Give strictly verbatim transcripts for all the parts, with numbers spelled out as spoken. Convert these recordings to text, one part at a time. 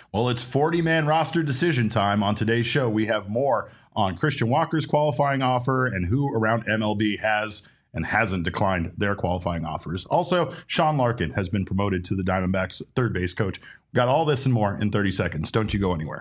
Well, it's forty-man roster decision time. On today's show, we have more on Christian Walker's qualifying offer and who around M L B has and hasn't declined their qualifying offers. Also, Sean Larkin has been promoted to the Diamondbacks third base coach. Got all this and more in thirty seconds. Don't you go anywhere.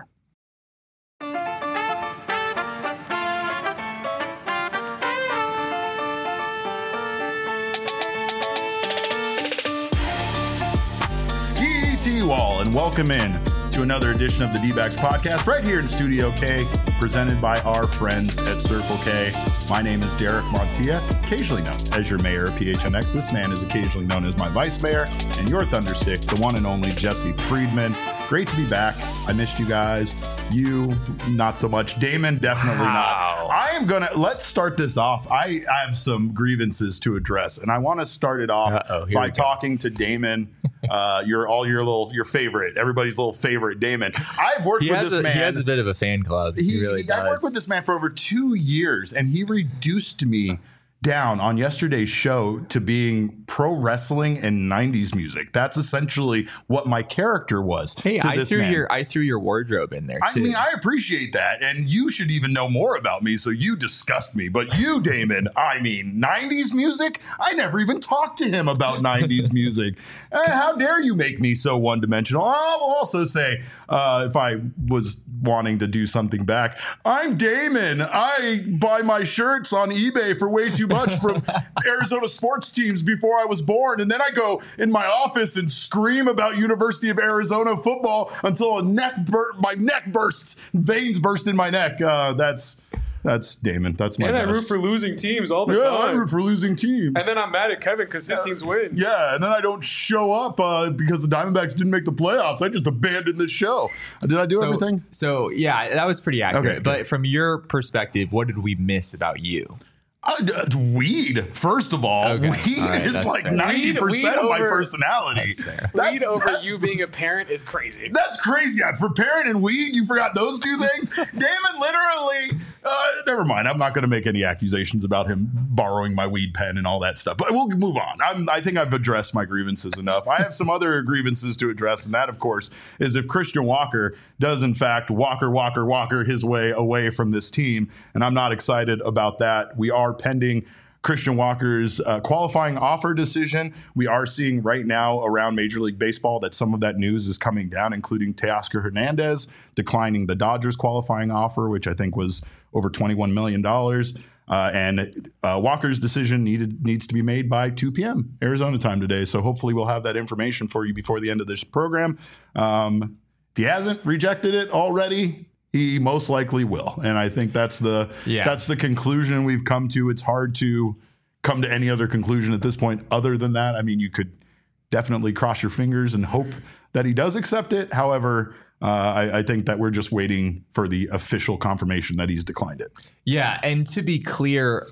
Wall and welcome in to another edition of the D-Backs podcast right here in Studio K, presented by our friends at Circle K. My name is Derek Montilla, occasionally known as your mayor of P H N X. This man is occasionally known as my vice mayor, and your thunderstick, the one and only Jesse Friedman. Great to be back. I missed you guys. You, not so much. Damon, definitely wow. not. I am going to, let's start this off. I, I have some grievances to address, and I want to start it off by talking to Damon. Uh, your all your little your favorite, everybody's little favorite, Damon. I've worked he with this a, man. He has a bit of a fan club. He, he really does. I've worked with this man for over two years, and he reduced me down on yesterday's show to being pro wrestling and nineties music. That's essentially what my character was. Hey, to I this threw man. your I threw your wardrobe in there too. I mean, I appreciate that, and you should even know more about me, so you disgust me. But you, Damon, I mean, nineties music? I never even talked to him about nineties music. Eh, how dare you make me so one-dimensional? I'll also say, uh, if I was wanting to do something back, I'm Damon. I buy my shirts on eBay for way too much from Arizona sports teams before I was born, and then I go in my office and scream about University of Arizona football until a neck bur- my neck bursts, veins burst in my neck. Uh, that's that's Damon. That's my. And best. I root for losing teams all the yeah, time. I root for losing teams. And then I'm mad at Kevin because his yeah. teams win. Yeah, and then I don't show up uh, because the Diamondbacks didn't make the playoffs. I just abandoned the show. Did I do so, everything? So yeah, that was pretty accurate. Okay, but from your perspective, what did we miss about you? Uh, weed, first of all. Okay. Weed all right, is like fair. ninety percent weed, weed of my over, personality. That's fair. That's, weed over that's, you being a parent is crazy. That's crazy. Yeah, for parent and weed, you forgot those two things? Damon literally, uh, never mind. I'm not going to make any accusations about him borrowing my weed pen and all that stuff. But we'll move on. I'm, I think I've addressed my grievances enough. I have some other grievances to address, and that, of course, is if Christian Walker does, in fact, Walker, Walker, Walker his way away from this team. And I'm not excited about that. We are pending Christian Walker's uh, qualifying offer decision. We are seeing right now around Major League Baseball that some of that news is coming down, including Teoscar Hernandez declining the Dodgers qualifying offer, which I think was over twenty-one million dollars. Uh, and uh, Walker's decision needed needs to be made by two p.m. Arizona time today. So hopefully we'll have that information for you before the end of this program. Um, if he hasn't rejected it already, he most likely will. And I think that's the yeah. that's the conclusion we've come to. It's hard to come to any other conclusion at this point other than that. I mean, you could definitely cross your fingers and hope that he does accept it. However, uh, I, I think that we're just waiting for the official confirmation that he's declined it. Yeah. And to be clear,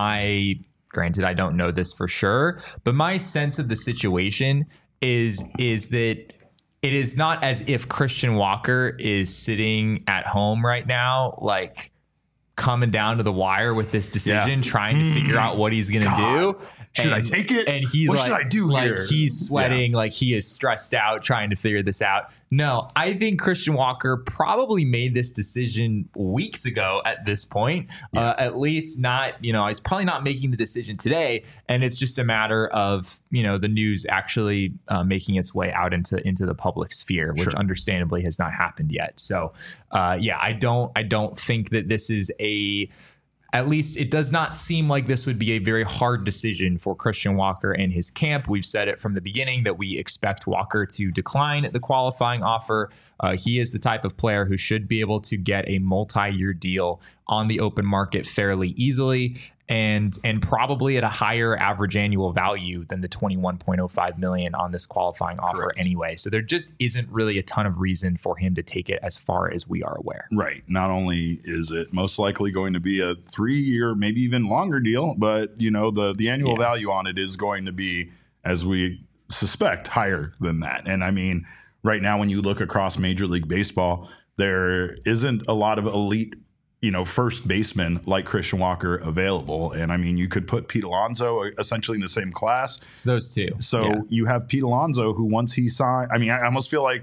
my granted, I don't know this for sure, but my sense of the situation is is that it is not as if Christian Walker is sitting at home right now, like coming down to the wire with this decision, yeah. trying to figure out what he's going to do. Should and, I take it? And he's what like, should I do like here? he's sweating, yeah. like he is stressed out trying to figure this out. No, I think Christian Walker probably made this decision weeks ago at this point. Yeah. Uh, at least not, you know, he's probably not making the decision today. And it's just a matter of, you know, the news actually uh, making its way out into into the public sphere, which sure. understandably has not happened yet. So, uh, yeah, I don't I don't think that this is a At least it does not seem like this would be a very hard decision for Christian Walker and his camp. We've said it from the beginning that we expect Walker to decline the qualifying offer. Uh, he is the type of player who should be able to get a multi-year deal on the open market fairly easily and and probably at a higher average annual value than the twenty-one point oh five million dollars on this qualifying offer Correct. Anyway. So there just isn't really a ton of reason for him to take it as far as we are aware. Right. Not only is it most likely going to be a three-year, maybe even longer deal, but you know the the annual yeah. value on it is going to be, as we suspect, higher than that. And I mean, right now when you look across Major League Baseball, there isn't a lot of elite you know, first baseman like Christian Walker available. And I mean, you could put Pete Alonso essentially in the same class. It's those two. So yeah. you have Pete Alonso who once he signed, I mean, I almost feel like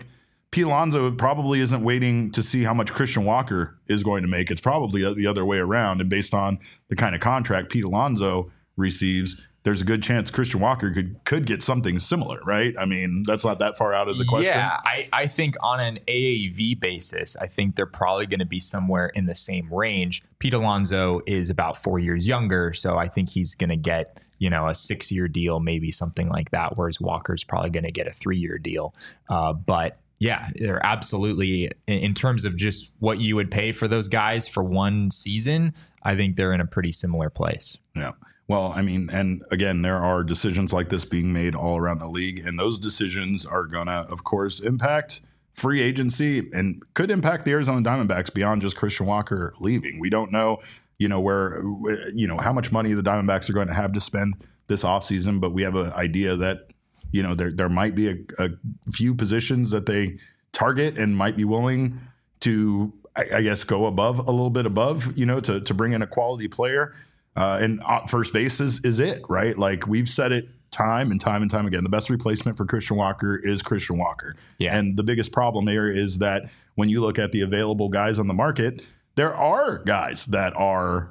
Pete Alonso probably isn't waiting to see how much Christian Walker is going to make. It's probably the other way around. And based on the kind of contract Pete Alonso receives, there's a good chance Christian Walker could could get something similar, right? I mean, that's not that far out of the question. Yeah, I, I think on an A A V basis, I think they're probably going to be somewhere in the same range. Pete Alonso is about four years younger, so I think he's going to get, you know, a six-year deal, maybe something like that, whereas Walker's probably going to get a three-year deal. Uh, but yeah, they're absolutely, in terms of just what you would pay for those guys for one season, I think they're in a pretty similar place. Yeah. Well, I mean, and again, there are decisions like this being made all around the league, and those decisions are going to, of course, impact free agency and could impact the Arizona Diamondbacks beyond just Christian Walker leaving. We don't know, you know, where, you know, how much money the Diamondbacks are going to have to spend this offseason, but we have an idea that, you know, there there might be a, a few positions that they target and might be willing to, I, I guess, go above a little bit above, you know, to to bring in a quality player. Uh, and first base is, is it, right? Like we've said it time and time and time again. The best replacement for Christian Walker is Christian Walker. Yeah. And the biggest problem there is that when you look at the available guys on the market, there are guys that are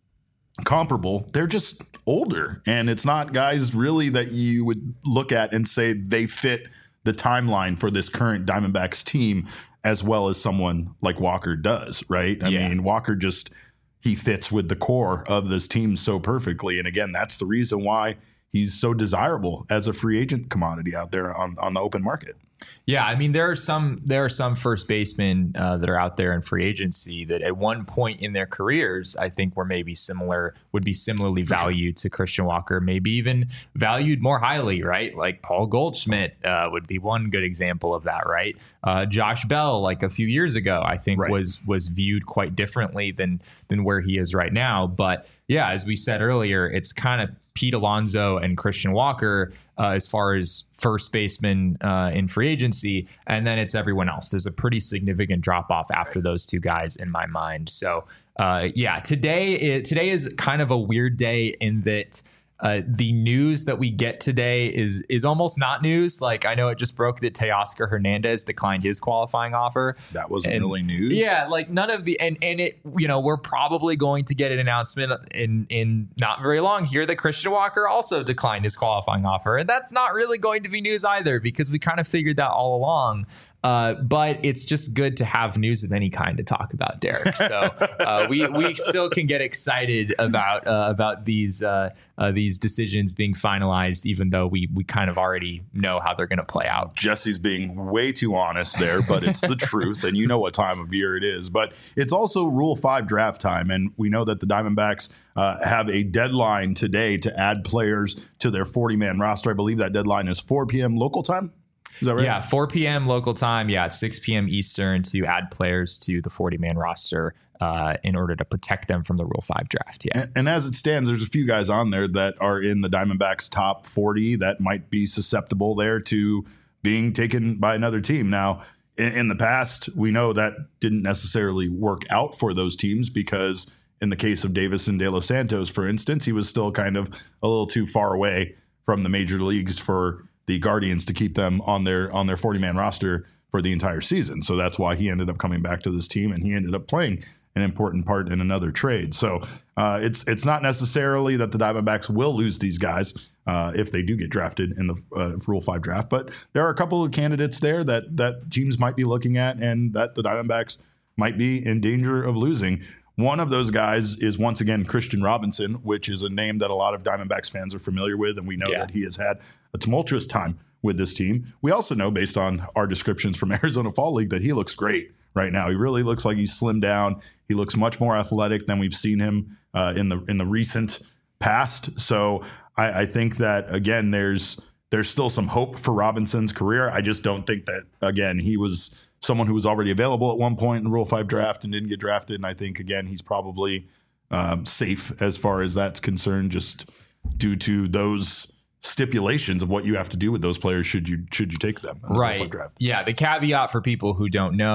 comparable. They're just older. And it's not guys really that you would look at and say they fit the timeline for this current Diamondbacks team as well as someone like Walker does, right? I Yeah. mean, Walker just... he fits with the core of this team so perfectly. And again, that's the reason why he's so desirable as a free agent commodity out there on, on the open market. Yeah, I mean, there are some there are some first basemen uh, that are out there in free agency that at one point in their careers, I think were maybe similar, would be similarly For valued sure. to Christian Walker, maybe even valued more highly, right? Like Paul Goldschmidt uh, would be one good example of that, right? Uh, Josh Bell, like a few years ago, I think right. was was viewed quite differently than than where he is right now. But yeah, as we said earlier, it's kind of Pete Alonso and Christian Walker uh, as far as first baseman uh, in free agency. And then it's everyone else. There's a pretty significant drop off after those two guys in my mind. So uh, yeah, today is, today is kind of a weird day in that uh, the news that we get today is is almost not news. Like I know it just broke that Teoscar Hernandez declined his qualifying offer. That wasn't and, really news. Yeah, like none of the and and it you know we're probably going to get an announcement in in not very long here that Christian Walker also declined his qualifying offer, and that's not really going to be news either because we kind of figured that all along. Uh, but it's just good to have news of any kind to talk about, Derek. So uh, we we still can get excited about uh, about these uh, uh, these decisions being finalized, even though we we kind of already know how they're going to play out. Jesse's being way too honest there, but it's the truth, and you know what time of year it is. But it's also Rule Five draft time, and we know that the Diamondbacks uh, have a deadline today to add players to their forty-man roster. I believe that deadline is four p.m. local time. Is that right? Yeah, four p.m. local time. Yeah, it's six p.m. Eastern to add players to the forty-man roster uh, in order to protect them from the Rule five draft. Yeah. And, and as it stands, there's a few guys on there that are in the Diamondbacks top forty that might be susceptible there to being taken by another team. Now, in, in the past, we know that didn't necessarily work out for those teams because in the case of Davison De Los Santos, for instance, he was still kind of a little too far away from the major leagues for the Guardians to keep them on their on their forty-man roster for the entire season. So that's why he ended up coming back to this team, and he ended up playing an important part in another trade. So uh, it's it's not necessarily that the Diamondbacks will lose these guys uh, if they do get drafted in the uh, Rule five draft, but there are a couple of candidates there that that teams might be looking at and that the Diamondbacks might be in danger of losing. One of those guys is, once again, Christian Robinson, which is a name that a lot of Diamondbacks fans are familiar with, and we know yeah. that he has had a tumultuous time with this team. We also know, based on our descriptions from Arizona Fall League, that he looks great right now. He really looks like he's slimmed down. He looks much more athletic than we've seen him uh, in the in the recent past. So I, I think that, again, there's there's still some hope for Robinson's career. I just don't think that, again, he was someone who was already available at one point in the Rule five draft and didn't get drafted. And I think, again, he's probably um, safe as far as that's concerned, just due to those stipulations of what you have to do with those players should you should you take them in the right Rule five draft. Yeah, the caveat for people who don't know,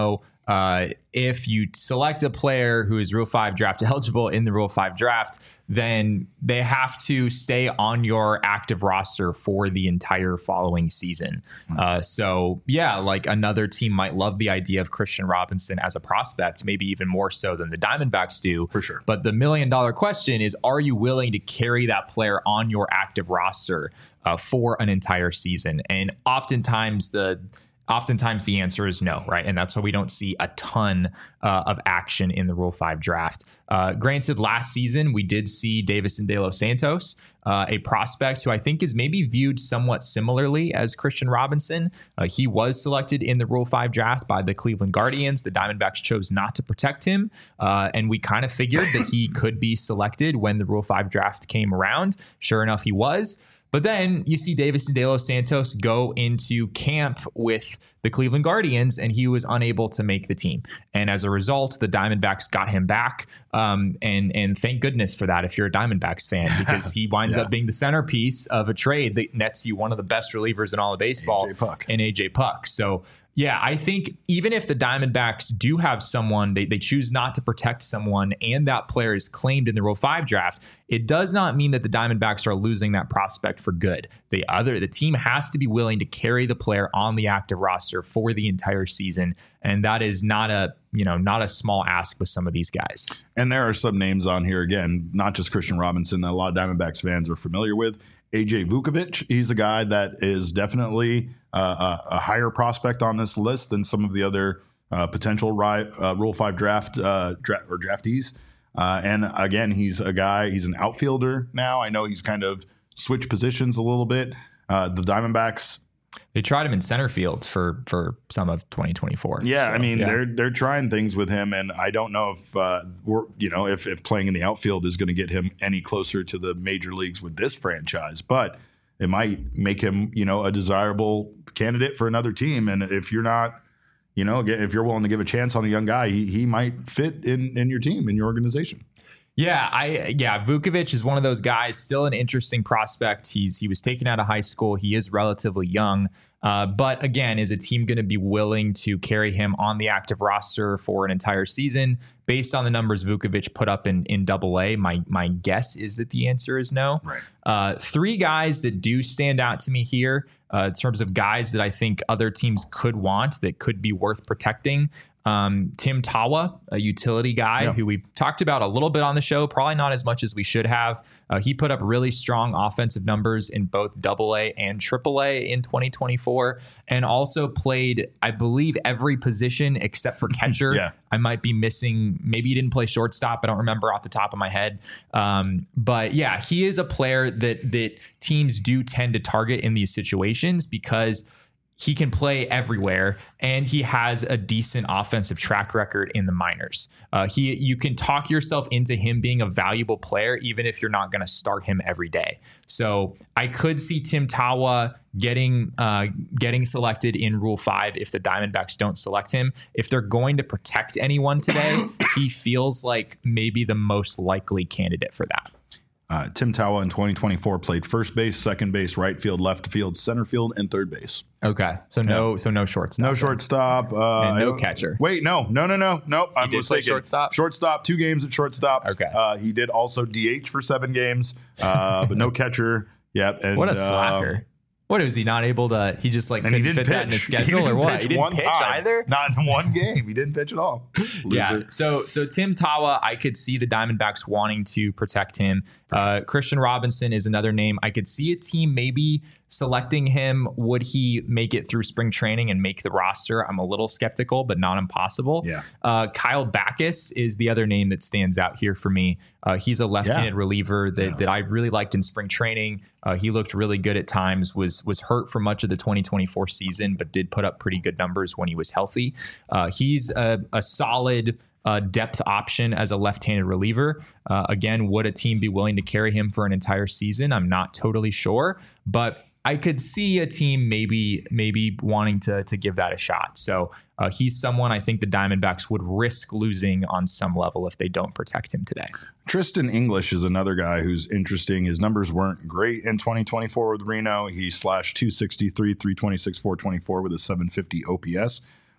uh, if you select a player who is Rule five draft eligible in the Rule five draft, then they have to stay on your active roster for the entire following season. Uh, so, yeah, like another team might love the idea of Christian Robinson as a prospect, maybe even more so than the Diamondbacks do. For sure. But the million dollar question is, are you willing to carry that player on your active roster uh, for an entire season? And oftentimes the Oftentimes the answer is no, right? And that's why we don't see a ton uh, of action in the Rule five draft. Uh, granted, last season we did see Davison De Los Santos, uh, a prospect who I think is maybe viewed somewhat similarly as Christian Robinson. Uh, he was selected in the Rule five draft by the Cleveland Guardians. The Diamondbacks chose not to protect him, uh, and we kind of figured that he could be selected when the Rule five draft came around. Sure enough, he was. But then you see Davison De Los Santos go into camp with the Cleveland Guardians, and he was unable to make the team. And as a result, the Diamondbacks got him back. Um, and and thank goodness for that if you're a Diamondbacks fan, because he winds yeah. up being the centerpiece of a trade that nets you one of the best relievers in all of baseball, A J Puck. and A J Puck. So yeah, I think even if the Diamondbacks do have someone, they, they choose not to protect someone, and that player is claimed in the Rule five draft, it does not mean that the Diamondbacks are losing that prospect for good. The other, the team has to be willing to carry the player on the active roster for the entire season, and that is not a you know not a small ask with some of these guys. And there are some names on here, again, not just Christian Robinson, that a lot of Diamondbacks fans are familiar with. A J Vukovic, he's a guy that is definitely uh, a, a higher prospect on this list than some of the other uh, potential ri- uh, Rule five draft uh, dra- or draftees. Uh, and again, he's a guy, he's an outfielder now. I know he's kind of switched positions a little bit. Uh, the Diamondbacks, They tried him in center field for for some of twenty twenty-four. Yeah, So, I mean yeah. they're they're trying things with him, and I don't know if uh, we're you know if if playing in the outfield is going to get him any closer to the major leagues with this franchise, but it might make him you know a desirable candidate for another team. And if you're not, you know, if you're willing to give a chance on a young guy, he he might fit in in your team, in your organization. Yeah, I yeah, Vukovic is one of those guys, still an interesting prospect. He's he was taken out of high school. He is relatively young. Uh, but again, is a team going to be willing to carry him on the active roster for an entire season? Based on the numbers Vukovic put up in in Double A, my my guess is that the answer is no. Right. Uh, three guys that do stand out to me here uh, in terms of guys that I think other teams could want that could be worth protecting. Um, Tim Tawa, a utility guy yeah. who we talked about a little bit on the show, probably not as much as we should have. Uh, he put up really strong offensive numbers in both Double A and Triple A in twenty twenty-four, and also played, I believe, every position except for catcher. yeah. I might be missing. Maybe he didn't play shortstop. I don't remember off the top of my head. Um, but yeah, he is a player that that teams do tend to target in these situations because he can play everywhere, and he has a decent offensive track record in the minors. Uh, he, you can talk yourself into him being a valuable player, even if you're not going to start him every day. So I could see Tim Tawa getting uh, getting selected in Rule five if the Diamondbacks don't select him. If they're going to protect anyone today, he feels like maybe the most likely candidate for that. Uh, Tim Tawa in twenty twenty-four played first base, second base, right field, left field, center field, and third base. Okay, so no, so no shortstop. No then. shortstop. Uh, And no I- catcher. Wait, no, no, no, no, no. I'm did play mistaken. shortstop? Shortstop, two games at shortstop. Okay. Uh, he did also D H for seven games, uh, but no catcher. Yep. And, What a uh, slacker. What is he not able to? He just like And he couldn't didn't fit pitch. that in his He schedule, or didn't what? pitch He didn't one pitch time. either. Not in one game. He didn't pitch at all. Yeah. Loser. So so Tim Tawa, I could see the Diamondbacks wanting to protect him. Uh, Christian Robinson is another name. I could see a team maybe selecting him. Would he make it through spring training and make the roster? I'm a little skeptical, but not impossible. Yeah. Uh, Kyle Backus is the other name that stands out here for me. Uh, he's a left-handed Yeah. reliever that, Yeah. that I really liked in spring training. Uh, he looked really good at times, was was hurt for much of the twenty twenty-four season, but did put up pretty good numbers when he was healthy. Uh, he's a, a solid uh, depth option as a left-handed reliever. Uh, again, would a team be willing to carry him for an entire season? I'm not totally sure, but I could see a team maybe maybe wanting to to give that a shot. So uh, he's someone I think the Diamondbacks would risk losing on some level if they don't protect him today. Tristan English is another guy who's interesting. His numbers weren't great in twenty twenty-four with Reno. He slashed two sixty-three, three twenty-six, four twenty-four with a seven fifty O P S.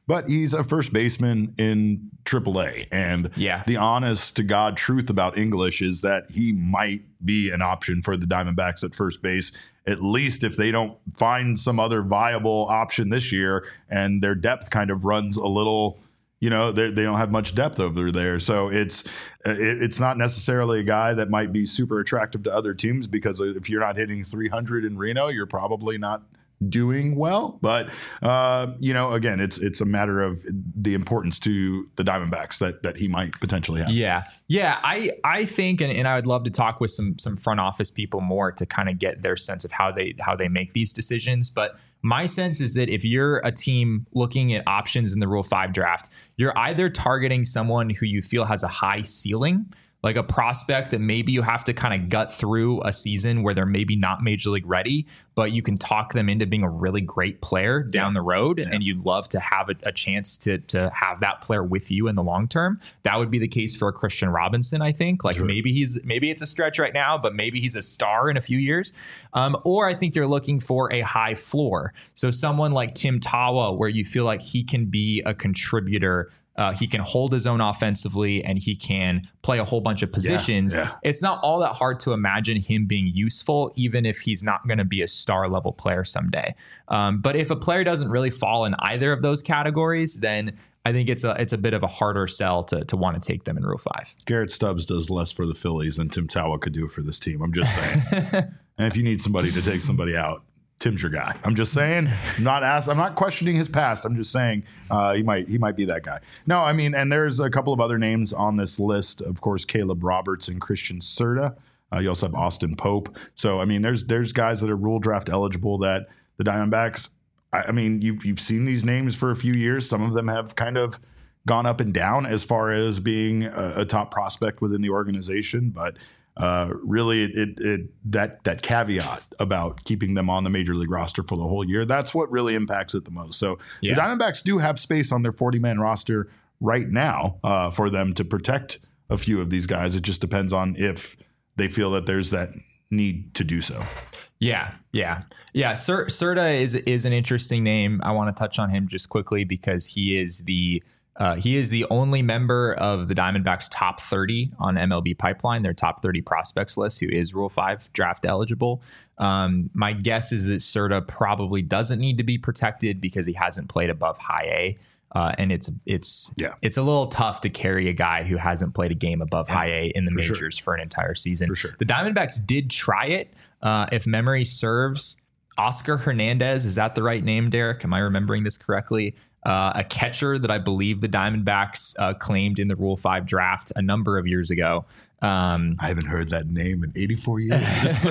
but he's a first baseman in triple A. And Yeah. the honest to God truth about English is that he might be an option for the Diamondbacks at first base, at least if they don't find some other viable option this year and their depth kind of runs a little, you know, they, they don't have much depth over there. So it's it, it's not necessarily a guy that might be super attractive to other teams, because if you're not hitting three hundred in Reno, you're probably not doing well. But uh, you know, again, it's it's a matter of the importance to the Diamondbacks that that he might potentially have. Yeah. Yeah. I, I think, and, and I would love to talk with some some front office people more to kind of get their sense of how they how they make these decisions. But my sense is that if you're a team looking at options in the Rule five draft, you're either targeting someone who you feel has a high ceiling, like a prospect that maybe you have to kind of gut through a season where they're maybe not major league ready, but you can talk them into being a really great player down the road. Yeah. And you'd love to have a, a chance to to have that player with you in the long term. That would be the case for a Christian Robinson, I think. Like sure. maybe he's maybe it's a stretch right now, but maybe he's a star in a few years. Um, or I think you're looking for a high floor. So someone like Tim Tawa, where you feel like he can be a contributor. Uh, he can hold his own offensively and he can play a whole bunch of positions. Yeah, yeah. It's not all that hard to imagine him being useful, even if he's not going to be a star level player someday. Um, but if a player doesn't really fall in either of those categories, then I think it's a it's a bit of a harder sell to to want to take them in Rule five. Garrett Stubbs does less for the Phillies than Tim Tawa could do for this team. I'm just saying. And if you need somebody to take somebody out, Tim's your guy. I'm just saying. I'm not asked. I'm not questioning his past. I'm just saying uh, he might he might be that guy. No, I mean, and there's a couple of other names on this list. Of course, Caleb Roberts and Christian Serta. Uh, you also have Austin Pope. So I mean, there's there's guys that are rule draft eligible that the Diamondbacks. I, I mean, you've you've seen these names for a few years. Some of them have kind of gone up and down as far as being a, a top prospect within the organization, but. Uh, really, it, it, it that that caveat about keeping them on the major league roster for the whole year, that's what really impacts it the most. So yeah. the Diamondbacks do have space on their forty-man roster right now uh, for them to protect a few of these guys. It just depends on if they feel that there's that need to do so. Yeah, yeah, yeah. Ser- Serta is is an interesting name. I want to touch on him just quickly because he is the Uh, he is the only member of the Diamondbacks top thirty on M L B Pipeline, their top thirty prospects list, who is Rule five draft eligible. Um, my guess is that Serta probably doesn't need to be protected because he hasn't played above high A. Uh, and it's it's yeah. it's a little tough to carry a guy who hasn't played a game above yeah, high A in the for majors sure. for an entire season. For sure. The Diamondbacks did try it. Uh, if memory serves, Oscar Hernandez, is that the right name, Derek? Am I remembering this correctly? Uh, a catcher that I believe the Diamondbacks uh, claimed in the Rule five draft a number of years ago. Um, I haven't heard that name in eighty-four years.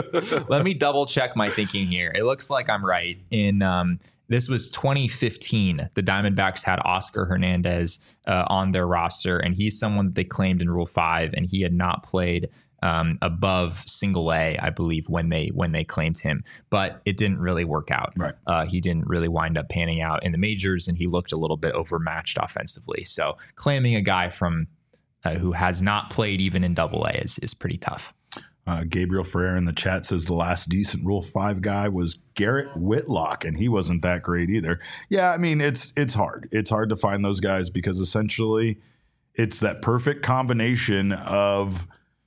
Let me double check my thinking here. It looks like I'm right. In um, this was twenty fifteen. The Diamondbacks had Oscar Hernandez uh, on their roster, and he's someone that they claimed in Rule five, and he had not played Um, above single A, I believe, when they when they claimed him, but it didn't really work out. Right. Uh, he didn't really wind up panning out in the majors, and he looked a little bit overmatched offensively. So claiming a guy from uh, who has not played even in Double A is is pretty tough. Uh, Gabriel Ferrer in the chat says the last decent Rule five guy was Garrett Whitlock, and he wasn't that great either. Yeah, I mean it's it's hard. It's hard to find those guys because essentially it's that perfect combination of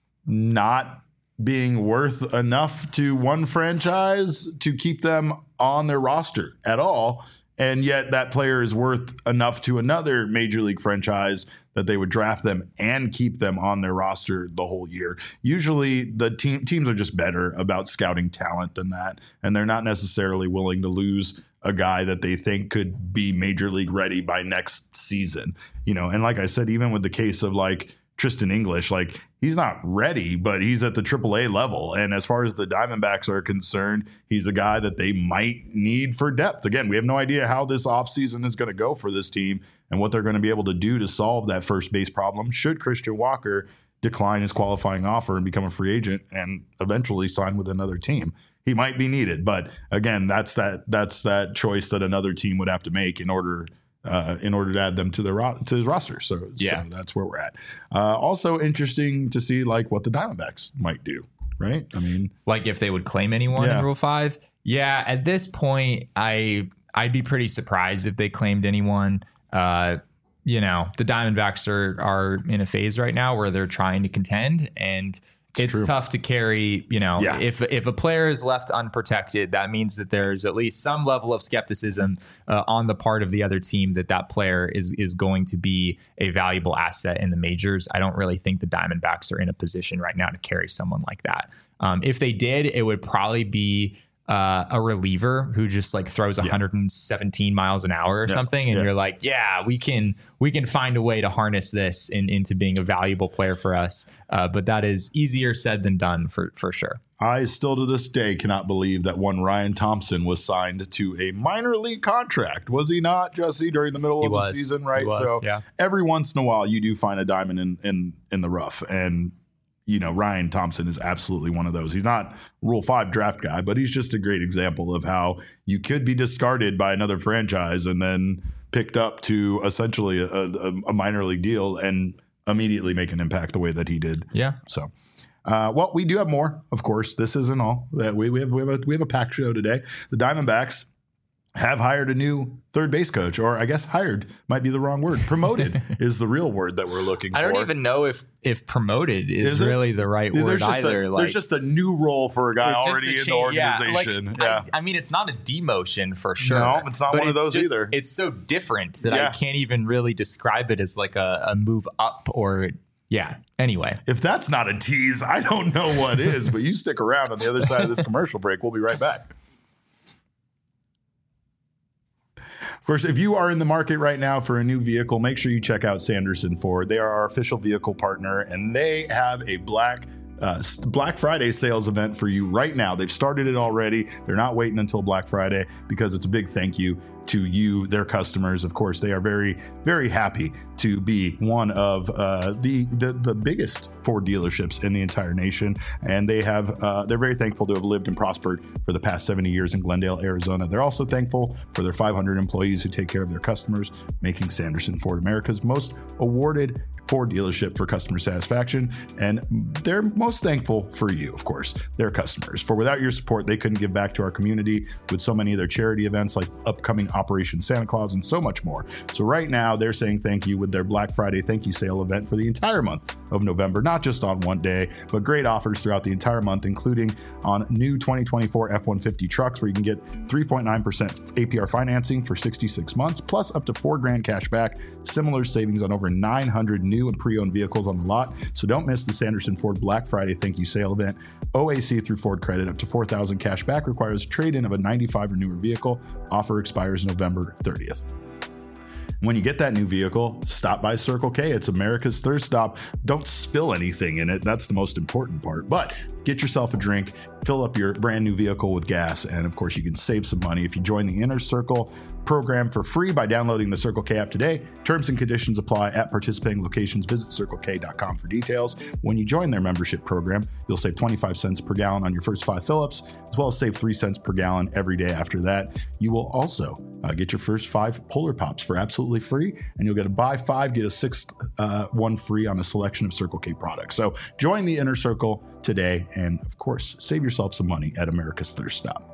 not being worth enough to one franchise to keep them on their roster at all. And yet that player is worth enough to another major league franchise that they would draft them and keep them on their roster the whole year. Usually the team teams are just better about scouting talent than that. And they're not necessarily willing to lose a guy that they think could be major league ready by next season. You know, and like I said, even with the case of like Tristan English, like he's not ready, but he's at the triple A level. And as far as the Diamondbacks are concerned, he's a guy that they might need for depth. Again, we have no idea how this offseason is going to go for this team and what they're going to be able to do to solve that first base problem should Christian Walker decline his qualifying offer and become a free agent and eventually sign with another team. He might be needed, but again, that's that that's that choice that another team would have to make in order Uh, in order to add them to the ro- to his roster. So, yeah. so that's where we're at. Uh, also interesting to see like what the Diamondbacks might do, right? I mean, like if they would claim anyone yeah. in Rule five. Yeah, at this point, I I'd be pretty surprised if they claimed anyone. Uh, you know, the Diamondbacks are are in a phase right now where they're trying to contend, and it's True. tough to carry, you know, Yeah. if if a player is left unprotected, that means that there's at least some level of skepticism uh, on the part of the other team that that player is is going to be a valuable asset in the majors. I don't really think the Diamondbacks are in a position right now to carry someone like that. Um, if they did, it would probably be uh, a reliever who just like throws one hundred seventeen miles an hour or Yeah. something, and Yeah. you're like, yeah, we can we can find a way to harness this in, into being a valuable player for us. Uh, but that is easier said than done for for sure. I still to this day cannot believe that one Ryan Thompson was signed to a minor league contract. Was he not, Jesse, during the middle He of was. the season, He right? was, so yeah. every once in a while you do find a diamond in in in the rough. And you know, Ryan Thompson is absolutely one of those. He's not Rule five draft guy, but he's just a great example of how you could be discarded by another franchise and then picked up to essentially a, a, a minor league deal and immediately make an impact the way that he did. Yeah. So, uh, well, we do have more, of course. This isn't all. That we, we have we have a we have a packed show today. The Diamondbacks have hired a new third base coach, or I guess hired might be the wrong word. Promoted is the real word that we're looking for. I don't even know if if promoted is, Is it? really the right There's word just either. A, like, there's just a new role for a guy it's just already a in the change- yeah, organization. like, Yeah, I, I mean, it's not a demotion for sure. No, it's not but one of those just- either. It's so different that Yeah. I can't even really describe it as like a, a move up or yeah. Anyway, if that's not a tease, I don't know what is. But you stick around on the other side of this commercial break. We'll be right back. Of course, if you are in the market right now for a new vehicle, make sure you check out Sanderson Ford. They are our official vehicle partner, and they have a Black uh, Black Friday sales event for you right now. They've started it already. They're not waiting until Black Friday because it's a big thank you to you, their customers. Of course, they are very, very happy to be one of uh, the, the the biggest Ford dealerships in the entire nation, and they have uh, they're very thankful to have lived and prospered for the past seventy years in Glendale, Arizona. They're also thankful for their five hundred employees who take care of their customers, making Sanderson Ford America's most awarded Ford dealership for customer satisfaction, and they're most thankful for you, of course, their customers. For without your support, they couldn't give back to our community with so many of their charity events like upcoming Operation Santa Claus and so much more. So right now, they're saying thank you with their Black Friday thank you sale event for the entire month of November, not just on one day, but great offers throughout the entire month, including on new twenty twenty-four F one fifty trucks, where you can get three point nine percent A P R financing for sixty-six months, plus up to four grand cash back, similar savings on over nine hundred new and pre-owned vehicles on the lot. So don't miss the Sanderson Ford Black Friday thank you sale event. O A C through Ford Credit up to four thousand cash back, requires trade-in of a ninety-five or newer vehicle. Offer expires November thirtieth. When you get that new vehicle, stop by Circle K. It's America's thirst stop. Don't spill anything in it. That's the most important part. But get yourself a drink, fill up your brand new vehicle with gas, and of course, you can save some money if you join the Inner Circle program for free by downloading the Circle K app today. Terms and conditions apply at participating locations. Visit circle k dot com for details. When you join their membership program, you'll save twenty-five cents per gallon on your first five fill-ups, as well as save three cents per gallon every day after that. You will also uh, get your first five Polar Pops for absolutely free, and you'll get a buy five, get a sixth uh, one free on a selection of Circle K products. So join the Inner Circle today, and of course, save yourself some money at America's Thirst Stop.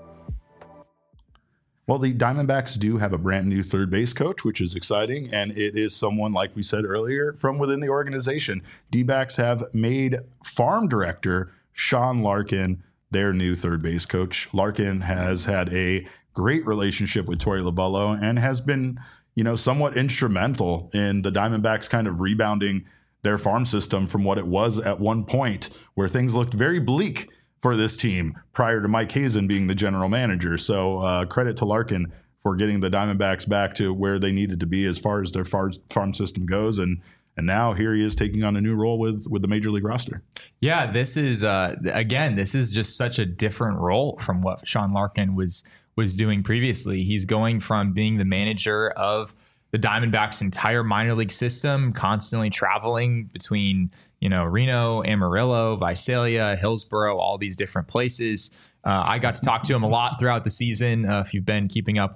Well, the Diamondbacks do have a brand new third base coach, which is exciting, and it is someone, like we said earlier, from within the organization. D-backs have made farm director Sean Larkin their new third base coach. Larkin has had a great relationship with Torey Lovullo and has been, you know, somewhat instrumental in the Diamondbacks kind of rebounding their farm system from what it was at one point, where things looked very bleak for this team prior to Mike Hazen being the general manager. So uh, credit to Larkin for getting the Diamondbacks back to where they needed to be as far as their far, farm system goes. And and now here he is taking on a new role with with the major league roster. yeah, this is uh, again, this is just such a different role from what Sean Larkin was was doing previously. He's going from being the manager of the Diamondbacks' entire minor league system, constantly traveling between, you know, Reno, Amarillo, Visalia, Hillsboro, all these different places. Uh, I got to talk to him a lot throughout the season. Uh, if you've been keeping up with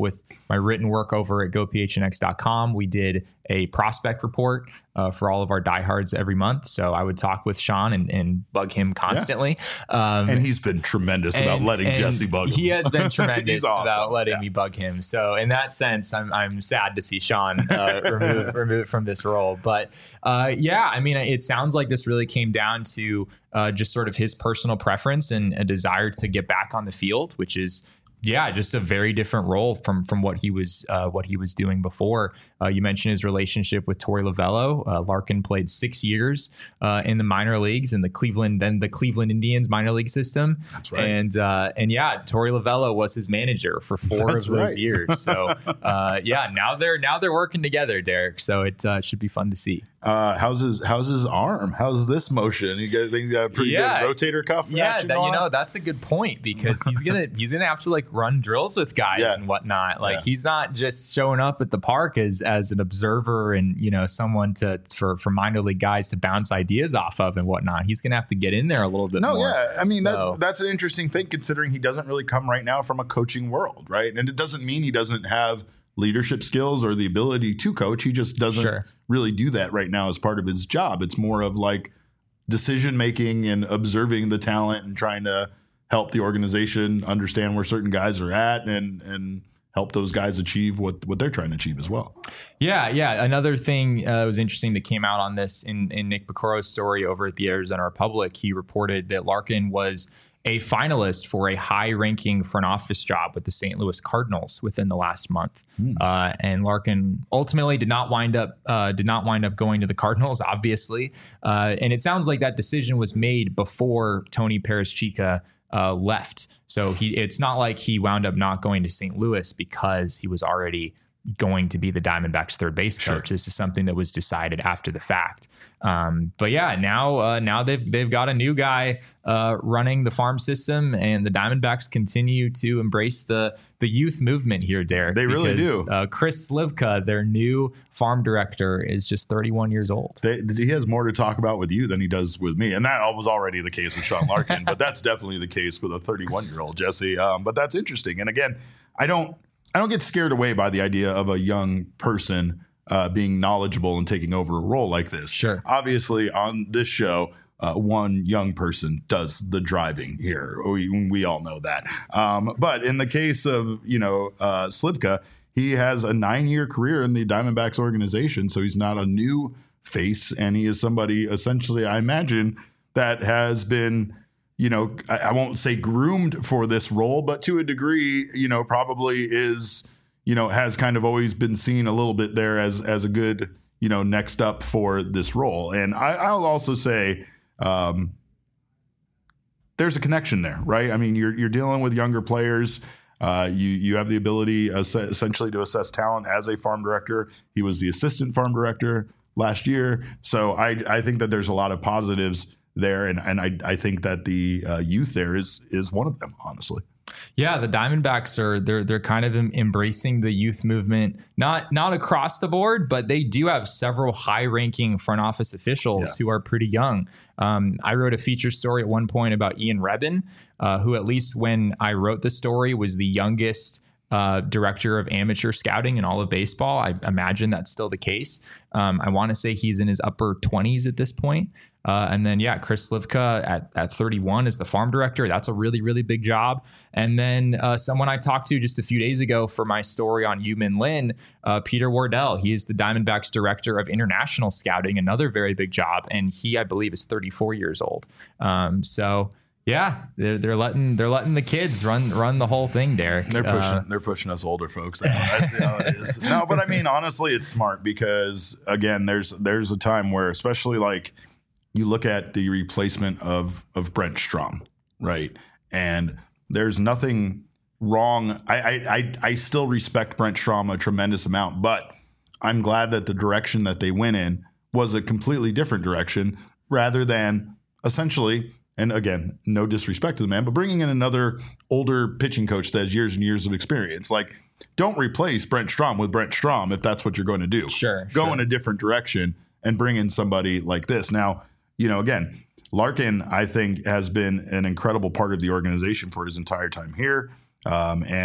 my written work over at go p h n x dot com. We did a prospect report uh, for all of our diehards every month. So I would talk with Sean and, and bug him constantly. Yeah. Um, and he's been tremendous and, about letting Jesse bug him. He has been tremendous awesome. about letting yeah. me bug him. So in that sense, I'm I'm sad to see Sean uh, remove remove from this role. But uh, yeah, I mean, it sounds like this really came down to uh, just sort of his personal preference and a desire to get back on the field, which is. Yeah, just a very different role from from what he was uh, what he was doing before. Uh, you mentioned his relationship with Torey Lovullo. Uh, Larkin played six years uh, in the minor leagues in the Cleveland, then the Cleveland Indians minor league system. That's right. And uh, and yeah, Torey Lovullo was his manager for four That's of those right. years. So uh, yeah, now they're now they're working together, Derek. So it uh, should be fun to see. Uh, how's his How's his arm? How's this motion? You got, think you got a pretty Yeah. good rotator cuff? Yeah, action that, going you on? know that's a good point because he's gonna he's gonna have to like run drills with guys Yeah. and whatnot. Like Yeah. he's not just showing up at the park as as an observer and you know someone to for for minor league guys to bounce ideas off of and whatnot. He's gonna have to get in there a little bit No, more. yeah. I mean, So- that's that's an interesting thing considering he doesn't really come right now from a coaching world, right? And it doesn't mean he doesn't have leadership skills or the ability to coach. He just doesn't Sure. really do that right now as part of his job. It's more of like decision making and observing the talent and trying to help the organization understand where certain guys are at and and help those guys achieve what what they're trying to achieve as well. Yeah, yeah. Another thing uh, was interesting that came out on this in, in Nick Bacoro's story over at the Arizona Republic. He reported that Larkin was a finalist for a high-ranking front office job with the Saint Louis Cardinals within the last month, hmm. uh, and Larkin ultimately did not wind up uh, did not wind up going to the Cardinals, obviously. Uh, and it sounds like that decision was made before Tony Perez-Chica uh, left. So he it's not like he wound up not going to Saint Louis because he was already going to be the Diamondbacks third base coach. Sure. This is something that was decided after the fact. Um, but yeah, now uh, now they've they've got a new guy uh, running the farm system, and the Diamondbacks continue to embrace the the youth movement here, Derek. They really because, do. Uh, Chris Slivka, their new farm director, is just thirty-one years old. They, he has more to talk about with you than he does with me, and that was already the case with Sean Larkin. But that's definitely the case with a thirty-one-year-old Jesse. Um, but that's interesting. And again, I don't. I don't get scared away by the idea of a young person uh, being knowledgeable and taking over a role like this. Sure. Obviously, on this show, uh, one young person does the driving here. We, we all know that. Um, but in the case of, you know, uh, Slivka, he has a nine-year career in the Diamondbacks organization, so he's not a new face, and he is somebody, essentially, I imagine, that has been – you know, I, I won't say groomed for this role, but to a degree, you know, probably is, you know, has kind of always been seen a little bit there as as a good, you know, next up for this role. And I, I'll also say um, there's a connection there, right? I mean, you're you're dealing with younger players. Uh, you you have the ability uh, essentially to assess talent as a farm director. He was the assistant farm director last year. So I I think that there's a lot of positives there, and and I I think that the uh, youth there is is one of them, honestly. Yeah, the Diamondbacks are they're they're kind of em- embracing the youth movement, not not across the board, but they do have several high-ranking front office officials yeah. who are pretty young. Um, I wrote a feature story at one point about Ian Rebin, uh, who at least when I wrote the story was the youngest Uh, director of amateur scouting in all of baseball. I imagine that's still the case. Um, I want to say he's in his upper twenties at this point. Uh, and then, yeah, Chris Slivka at, at thirty-one is the farm director. That's a really, really big job. And then uh, someone I talked to just a few days ago for my story on Yu-Min Lin, uh, Peter Wardell. He is the Diamondbacks director of international scouting, another very big job. And he, I believe, is thirty-four years old. Um, so... Yeah, they're, they're letting they're letting the kids run run the whole thing, Derek. They're pushing uh, they're pushing us older folks out. I see how it is. No, but I mean, honestly, it's smart because again, there's there's a time where, especially like you look at the replacement of of Brent Strom, right? And there's nothing wrong. I I I, I still respect Brent Strom a tremendous amount, but I'm glad that the direction that they went in was a completely different direction rather than essentially. And again, no disrespect to the man, but bringing in another older pitching coach that has years and years of experience. Like, don't replace Brent Strom with Brent Strom if that's what you're going to do. Sure. Go sure. in a different direction and bring in somebody like this. Now, you know, again, Larkin, I think, has been an incredible part of the organization for his entire time here. Um, and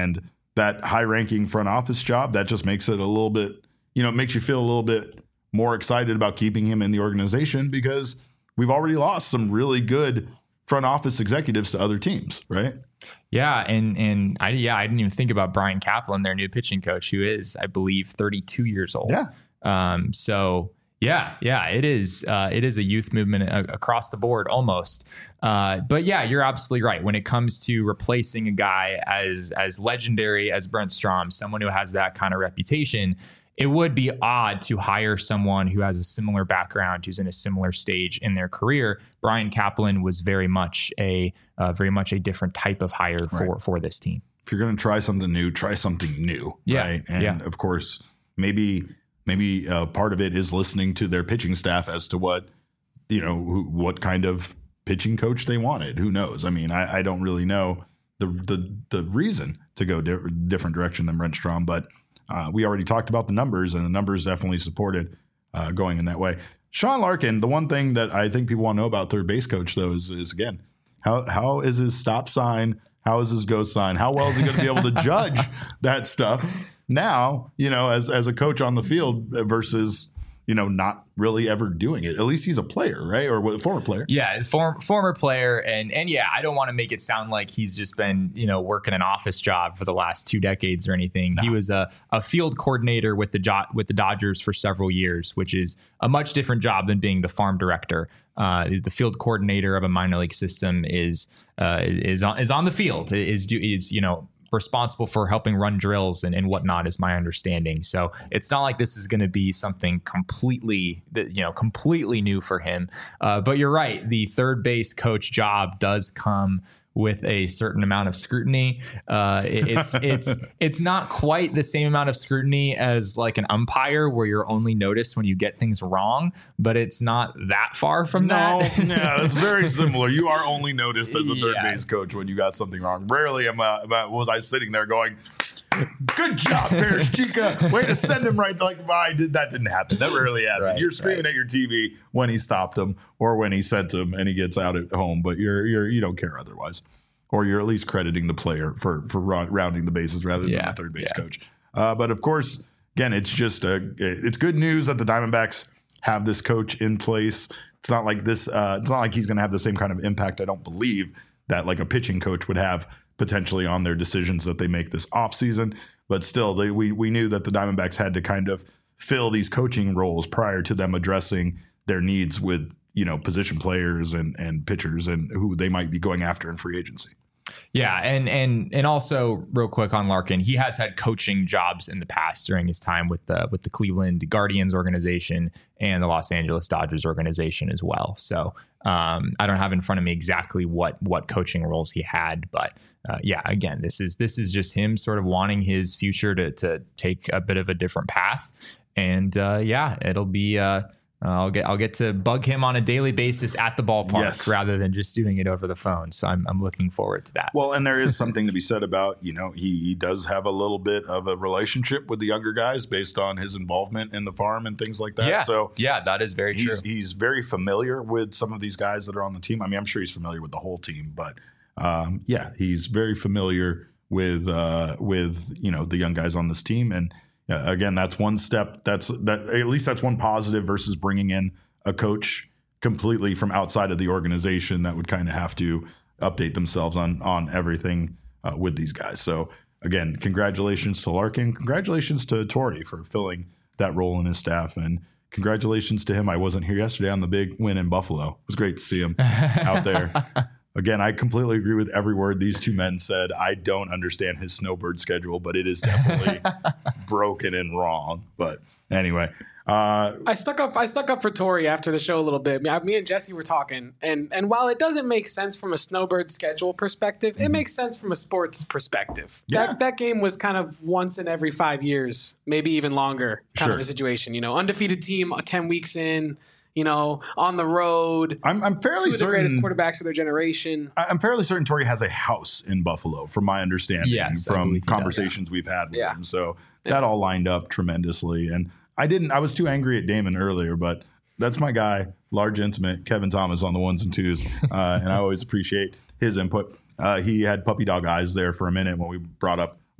that high-ranking front office job, that just makes it a little bit, you know, it makes you feel a little bit more excited about keeping him in the organization because we've already lost some really good front office executives to other teams, right? Yeah, and and I yeah I didn't even think about Brian Kaplan, their new pitching coach, who is, I believe, thirty-two years old. Yeah. Um. So yeah, yeah, it is. Uh, it is a youth movement a- across the board almost. Uh. But yeah, you're absolutely right. When it comes to replacing a guy as as legendary as Brent Strom, someone who has that kind of reputation, it would be odd to hire someone who has a similar background, who's in a similar stage in their career. Brian Kaplan was very much a uh, very much a different type of hire for Right. for this team. If you're going to try something new, try something new, Yeah, right? And yeah. of course, maybe maybe uh, part of it is listening to their pitching staff as to what, you know, who, what kind of pitching coach they wanted. Who knows? I mean, I, I don't really know the the the reason to go di- different direction than Brent Strom, but uh, we already talked about the numbers, and the numbers definitely supported uh, going in that way. Sean Larkin, the one thing that I think people want to know about third base coach, though, is, is again, how how is his stop sign? How is his go sign? How well is he going to be able to judge that stuff now, you know, as, as a coach on the field versus, you know, not really ever doing it? At least he's a player, right? Or a former player. Yeah, form, former player. And and yeah, I don't want to make it sound like he's just been, you know, working an office job for the last two decades or anything. No. He was a, a field coordinator with the jo- with the Dodgers for several years, which is a much different job than being the farm director. Uh, the field coordinator of a minor league system is uh, is on, is on the field, is do is you know responsible for helping run drills and, and whatnot, is my understanding. So it's not like this is going to be something completely that you know completely new for him. Uh, but you're right, the third base coach job does come with a certain amount of scrutiny. Uh, it, it's it's it's not quite the same amount of scrutiny as like an umpire, where you're only noticed when you get things wrong, but it's not that far from No, that. yeah, it's very similar. You are only noticed as a third Yeah. base coach when you got something wrong. Rarely am I, am I- was I sitting there going, "Good job, Paris Chica. Way to send him right." Like, well, I did. That didn't happen. That rarely happened. Right, you're screaming right. at your T V when he stopped him or when he sent him and he gets out at home, but you're you're you don't care otherwise, or you're at least crediting the player for for round, rounding the bases rather than Yeah, the third base yeah. coach. Uh, but of course, again, it's just a, it's good news that the Diamondbacks have this coach in place. It's not like this. Uh, it's not like he's going to have the same kind of impact, I don't believe, that like a pitching coach would have potentially on their decisions that they make this offseason. But still, they, we we knew that the Diamondbacks had to kind of fill these coaching roles prior to them addressing their needs with, you know, position players and and pitchers and who they might be going after in free agency. Yeah, and and and also real quick on Larkin, he has had coaching jobs in the past during his time with the with the Cleveland Guardians organization and the Los Angeles Dodgers organization as well. So um, I don't have in front of me exactly what what coaching roles he had, but uh, yeah, again, this is this is just him sort of wanting his future to to take a bit of a different path, and uh, yeah, it'll be. Uh, I'll get I'll get to bug him on a daily basis at the ballpark Yes. rather than just doing it over the phone. So I'm I'm looking forward to that. Well, and there is something to be said about, you know, he, he does have a little bit of a relationship with the younger guys based on his involvement in the farm and things like that. Yeah, So yeah, that is very true. he's he's very familiar with some of these guys that are on the team. I mean, I'm sure he's familiar with the whole team, but um, yeah, he's very familiar with uh, with you know the young guys on this team. And uh, again, that's one step. That's that at least that's one positive versus bringing in a coach completely from outside of the organization that would kind of have to update themselves on on everything uh, with these guys. So again, congratulations to Larkin. Congratulations to Torrey for filling that role in his staff, and congratulations to him. I wasn't here yesterday on the big win in Buffalo. It was great to see him out there. Again, I completely agree with every word these two men said. I don't understand his snowbird schedule, but it is definitely broken and wrong. But anyway, uh, I stuck up. I stuck up for Tori after the show a little bit. Me me and Jesse were talking, and and while it doesn't make sense from a snowbird schedule perspective, it makes sense from a sports perspective. Yeah. That that game was kind of once in every five years, maybe even longer, kind Sure. of a situation. You know, undefeated team, uh, ten weeks in. You know, on the road. I'm, I'm fairly Two of the greatest certain. quarterbacks of their generation. I- I'm fairly certain Torrey has a house in Buffalo, from my understanding, Yes, I from believe he does. conversations we've had with Yeah. him. So that all lined up tremendously. And I didn't. I was too angry at Damon earlier, but that's my guy, large intimate Kevin Thomas on the ones and twos, uh, and I always appreciate his input. Uh, he had puppy dog eyes there for a minute when we brought up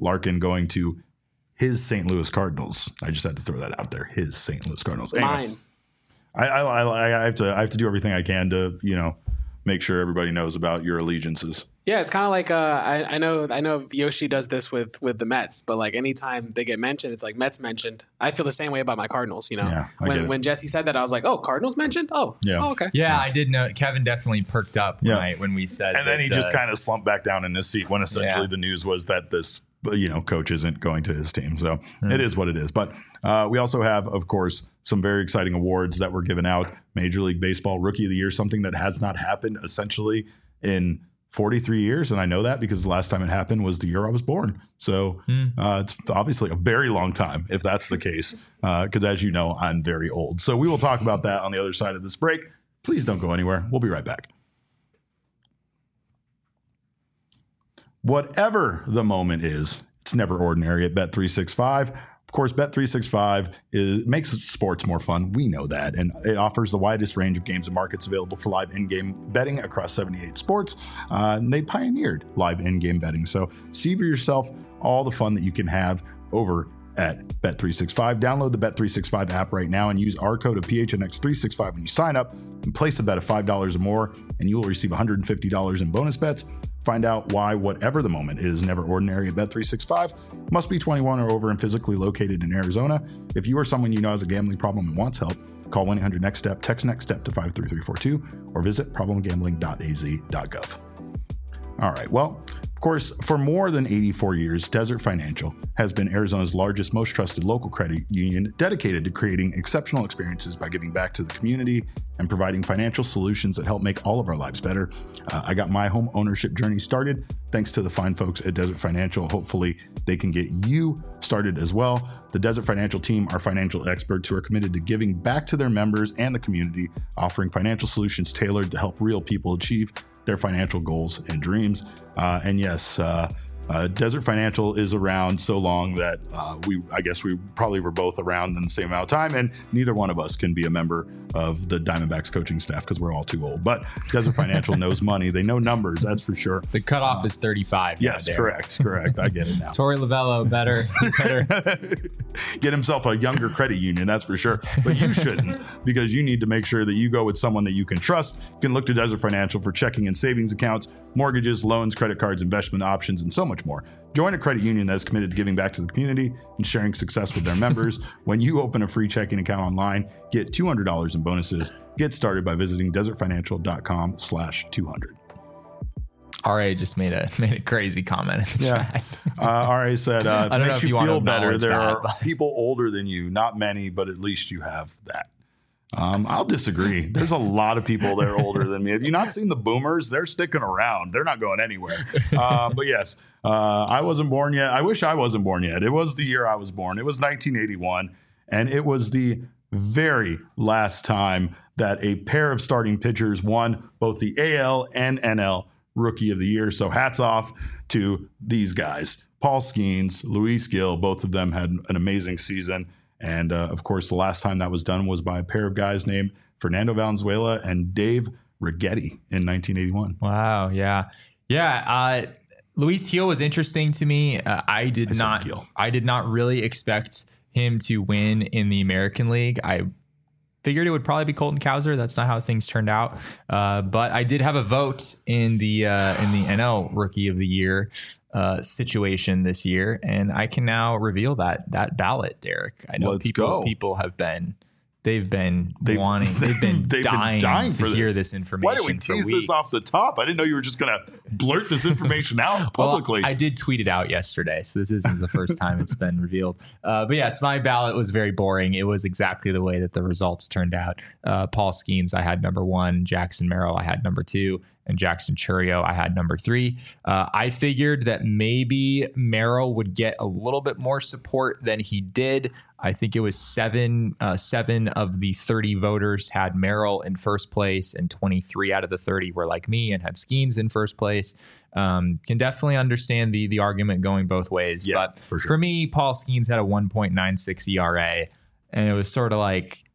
Larkin going to his Saint Louis Cardinals. I just had to throw that out there. His Saint Louis Cardinals. Anyway, Mine. I, I, I, I have to I have to do everything I can to, you know, make sure everybody knows about your allegiances. Yeah, it's kind of like uh, I, I know I know Yoshi does this with, with the Mets, but like anytime they get mentioned, it's like Mets mentioned. I feel the same way about my Cardinals. You know, Yeah, I get when it. when Jesse said that, I was like, oh, Cardinals mentioned. Oh, Yeah. oh, okay. Yeah, I did know. Kevin definitely perked up Yeah. when, I, when we said And then that, he just uh, kind of slumped back down in his seat when essentially Yeah. the news was that this, you know, coach isn't going to his team. So Hmm. it is what it is. But uh, we also have, of course, some very exciting awards that were given out. Major League Baseball Rookie of the Year, something that has not happened essentially in forty-three years. And I know that because the last time it happened was the year I was born. So uh, it's obviously a very long time if that's the case. Because as you know, I'm very old. So we will talk about that on the other side of this break. Please don't go anywhere. We'll be right back. Whatever the moment is, it's never ordinary at Bet three sixty-five. Of course, Bet three sixty-five is, makes sports more fun. We know that. And it offers the widest range of games and markets available for live in-game betting across seventy-eight sports. Uh, and they pioneered live in-game betting. So see for yourself all the fun that you can have over at Bet three sixty-five. Download the Bet three sixty-five app right now and use our code of P H N X three sixty-five when you sign up and place a bet of five dollars or more, and you will receive one hundred fifty dollars in bonus bets. Find out why whatever the moment is never ordinary at Bet three sixty-five. Must be twenty-one or over and physically located in Arizona. If you or someone you know has a gambling problem and wants help, call one eight hundred next step, text next step to five three three four two, or visit problem gambling dot a z dot gov. All right. Well, of course, for more than eighty-four years, Desert Financial has been Arizona's largest, most trusted local credit union dedicated to creating exceptional experiences by giving back to the community and providing financial solutions that help make all of our lives better. Uh, I got my home ownership journey started thanks to the fine folks at Desert Financial. Hopefully, they can get you started as well. The Desert Financial team are financial experts who are committed to giving back to their members and the community, offering financial solutions tailored to help real people achieve their financial goals and dreams. Uh, and yes, uh, uh, Desert Financial is around so long that uh, we, I guess we probably were both around in the same amount of time, and neither one of us can be a member of the Diamondbacks coaching staff because we're all too old. But Desert Financial knows money. They know numbers, that's for sure. the cutoff is thirty-five. Yes, now, correct, correct. I get it now. Tori Lavello better, better. Get himself a younger credit union, that's for sure. But you shouldn't, because you need to make sure that you go with someone that you can trust. You can look to Desert Financial for checking and savings accounts, mortgages, loans, credit cards, investment options, and so much more. Join a credit union that is committed to giving back to the community and sharing success with their members. When you open a free checking account online, get two hundred dollars in bonuses. Get started by visiting desert financial dot com slash two hundred. R A just made a made a crazy comment in the Yeah. chat. Uh, R A said, uh, if I it don't know makes if you you want to feel better, acknowledge there that, are but- people older than you. Not many, but at least you have that. Um, I'll disagree. There's a lot of people that are older than me. Have you not seen the boomers? They're sticking around. They're not going anywhere. Um, but yes, uh, I wasn't born yet. I wish I wasn't born yet. It was the year I was born. It was nineteen eighty-one. And it was the very last time that a pair of starting pitchers won both the A L and N L Rookie of the Year. So hats off to these guys. Paul Skeens, Luis Gil, both of them had an amazing season. And uh, of course, the last time that was done was by a pair of guys named Fernando Valenzuela and Dave Righetti in nineteen eighty-one. Wow. Yeah. Yeah. Uh, Luis Gil was interesting to me. Uh, I did I said not. Gil. I did not really expect him to win in the American League. I figured it would probably be Colton Cowser. That's not how things turned out. Uh, but I did have a vote in the uh, in the N L Rookie of the Year uh, situation this year, and I can now reveal that that ballot, Derek. I know Let's people go. people have been. They've been They- wanting. They've been they've dying, been dying to for hear this. this information. Why did we for tease weeks. this off the top? I didn't know you were just going to blurt this information out publicly. Well, I did tweet it out yesterday, so this isn't the first time it's been revealed. Uh, but yes, my ballot was very boring. It was exactly the way that the results turned out. Uh, Paul Skeens, I had number one. Jackson Merrill, I had number two. And Jackson Churio, I had number three. Uh, I figured that maybe Merrill would get a little bit more support than he did. I think it was seven, uh, seven of the thirty voters had Merrill in first place, and twenty-three out of the thirty were like me and had Skeens in first place. Um, can definitely understand the the argument going both ways. Yeah, but for sure. for me, Paul Skeens had a one point nine six E R A, and it was sort of like,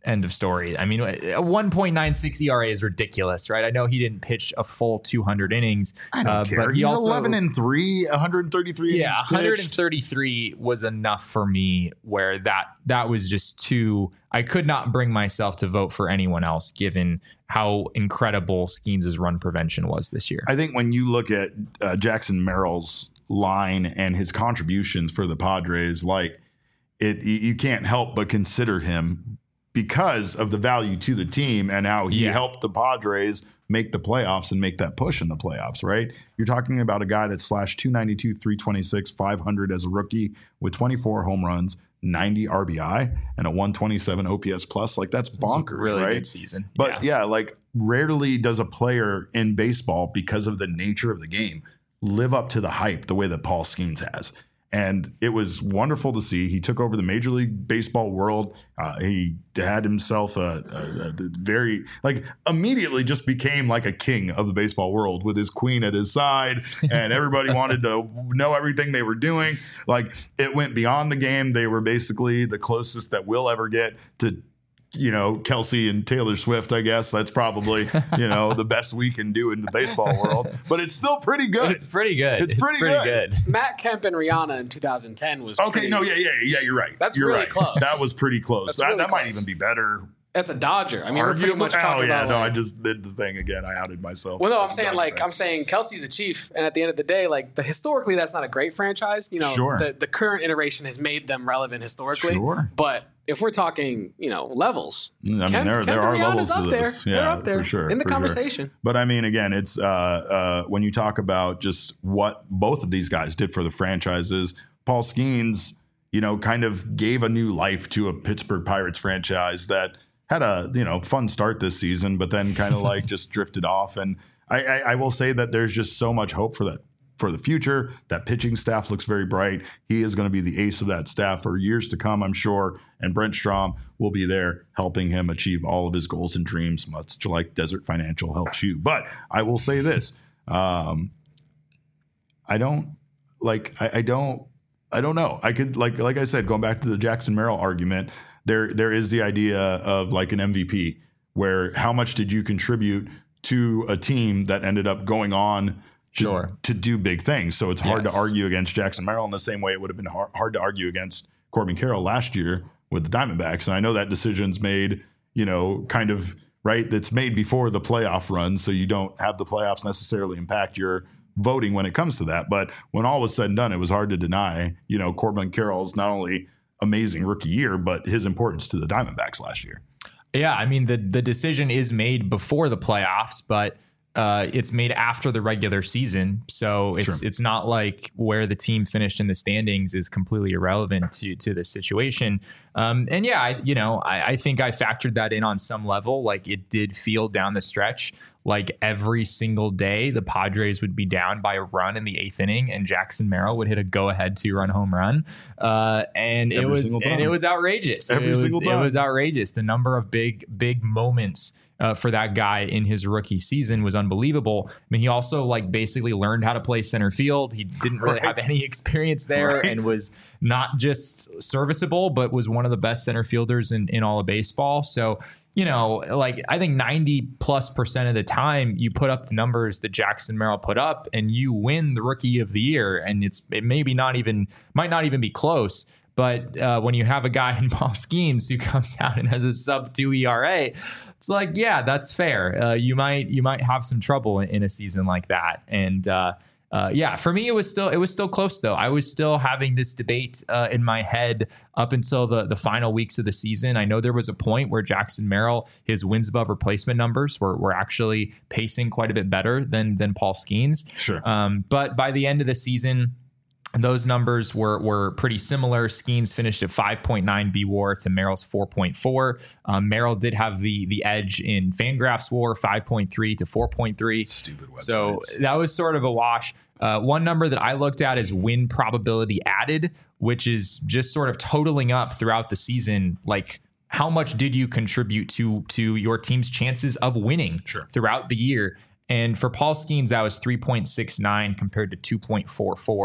End of story. I mean, a one point nine six E R A is ridiculous, right? I know he didn't pitch a full two hundred innings. I don't uh, care. But he He's also, eleven and three, one hundred thirty-three yeah, innings one hundred pitched. thirty-three was enough for me where that that was just too, I could not bring myself to vote for anyone else given how incredible Skeens' run prevention was this year. I think when you look at uh, Jackson Merrill's line and his contributions for the Padres, like it, you, you can't help but consider him because of the value to the team and how he Yeah. helped the Padres make the playoffs and make that push in the playoffs, right? You're talking about a guy that slashed two ninety-two, three twenty-six, five hundred as a rookie with twenty-four home runs, ninety R B I, and a one twenty-seven O P S plus. Like, that's bonkers, really right? good season. But yeah. yeah, like rarely does a player in baseball, because of the nature of the game, live up to the hype the way that Paul Skeens has. And it was wonderful to see. He took over the Major League Baseball world. Uh, he had himself a, a, a very, like, immediately just became like a king of the baseball world with his queen at his side. And everybody wanted to know everything they were doing. Like, it went beyond the game. They were basically the closest that we'll ever get to, you know, Kelsey and Taylor Swift, I guess. That's probably, you know, the best we can do in the baseball world. But it's still pretty good. It's pretty good. It's pretty good. Matt Kemp and Rihanna in two thousand ten was Okay, pretty, no, yeah, yeah, yeah, you're right. That's you're really right. close. That was pretty close. That's That, really that might close. even be better. That's a Dodger. I mean, we're pretty Arguably- much oh, talking yeah, about. no, like, I just did the thing again. I outed myself. Well, no, I'm As a saying Dodger like fan. I'm saying Kelsey's a Chief, and at the end of the day, like the historically, that's not a great franchise. You know, Sure. the the current iteration has made them relevant historically. Sure. But if we're talking, you know, levels, I mean, Kemp- there, Kemp there and are Rihanna's levels up to there. this. Yeah, They're up there for sure. in the for sure. conversation. But I mean, again, it's uh, uh, when you talk about just what both of these guys did for the franchises, Paul Skeens, you know, kind of gave a new life to a Pittsburgh Pirates franchise that had a, you know, fun start this season, but then kind of like just drifted off. And I, I, I will say that there's just so much hope for that. For the future, that pitching staff looks very bright. He is going to be the ace of that staff for years to come, I'm sure. And Brent Strom will be there helping him achieve all of his goals and dreams, much like Desert Financial helps you. But I will say this: um, I don't like. I, I don't. I don't know. I could like like I said, going back to the Jackson Merrill argument. There there is the idea of like an M V P, where how much did you contribute to a team that ended up going on. To, Sure. to do big things. So it's hard Yes. to argue against Jackson Merrill in the same way it would have been hard, hard to argue against Corbin Carroll last year with the Diamondbacks. And I know that decision's made, you know, kind of right. That's made before the playoff run. So you don't have the playoffs necessarily impact your voting when it comes to that. But when all was said and done, it was hard to deny, you know, Corbin Carroll's not only amazing rookie year, but his importance to the Diamondbacks last year. Yeah, I mean, the the decision is made before the playoffs, but uh, it's made after the regular season. So it's Sure. it's not like where the team finished in the standings is completely irrelevant to to the situation. Um, and yeah, I, you know, I, I think I factored that in on some level. Like, it did feel down the stretch like every single day the Padres would be down by a run in the eighth inning, and Jackson Merrill would hit a go-ahead two-run home run, uh, and Every it was single and time. it was outrageous. Every it was, single time. It was outrageous. The number of big big moments Uh, for that guy in his rookie season was unbelievable. I mean, he also like basically learned how to play center field. He didn't really Right. have any experience there, Right. and was not just serviceable, but was one of the best center fielders in, in all of baseball. So, you know, like I think ninety plus percent of the time you put up the numbers that Jackson Merrill put up and you win the rookie of the year. And it's, it maybe not even, might not even be close. But uh, when you have a guy in Paul Skeens who comes out and has a sub two E R A, it's like, yeah, that's fair. Uh, you might you might have some trouble in, in a season like that. And uh, uh, yeah, for me, it was still it was still close though. I was still having this debate uh, in my head up until the the final weeks of the season. I know there was a point where Jackson Merrill, his wins above replacement numbers were were actually pacing quite a bit better than than Paul Skeens. Sure. Um, but by the end of the season, those numbers were were pretty similar. Skeens finished at five point nine B W A R to Merrill's four point four. Um, Merrill did have the the edge in Fangraphs W A R, five point three to four point three. Stupid websites. So that was sort of a wash. Uh, one number that I looked at is win probability added, which is just sort of totaling up throughout the season. Like, how much did you contribute to to your team's chances of winning Sure. throughout the year? And for Paul Skeens, that was three point six nine compared to two point four four.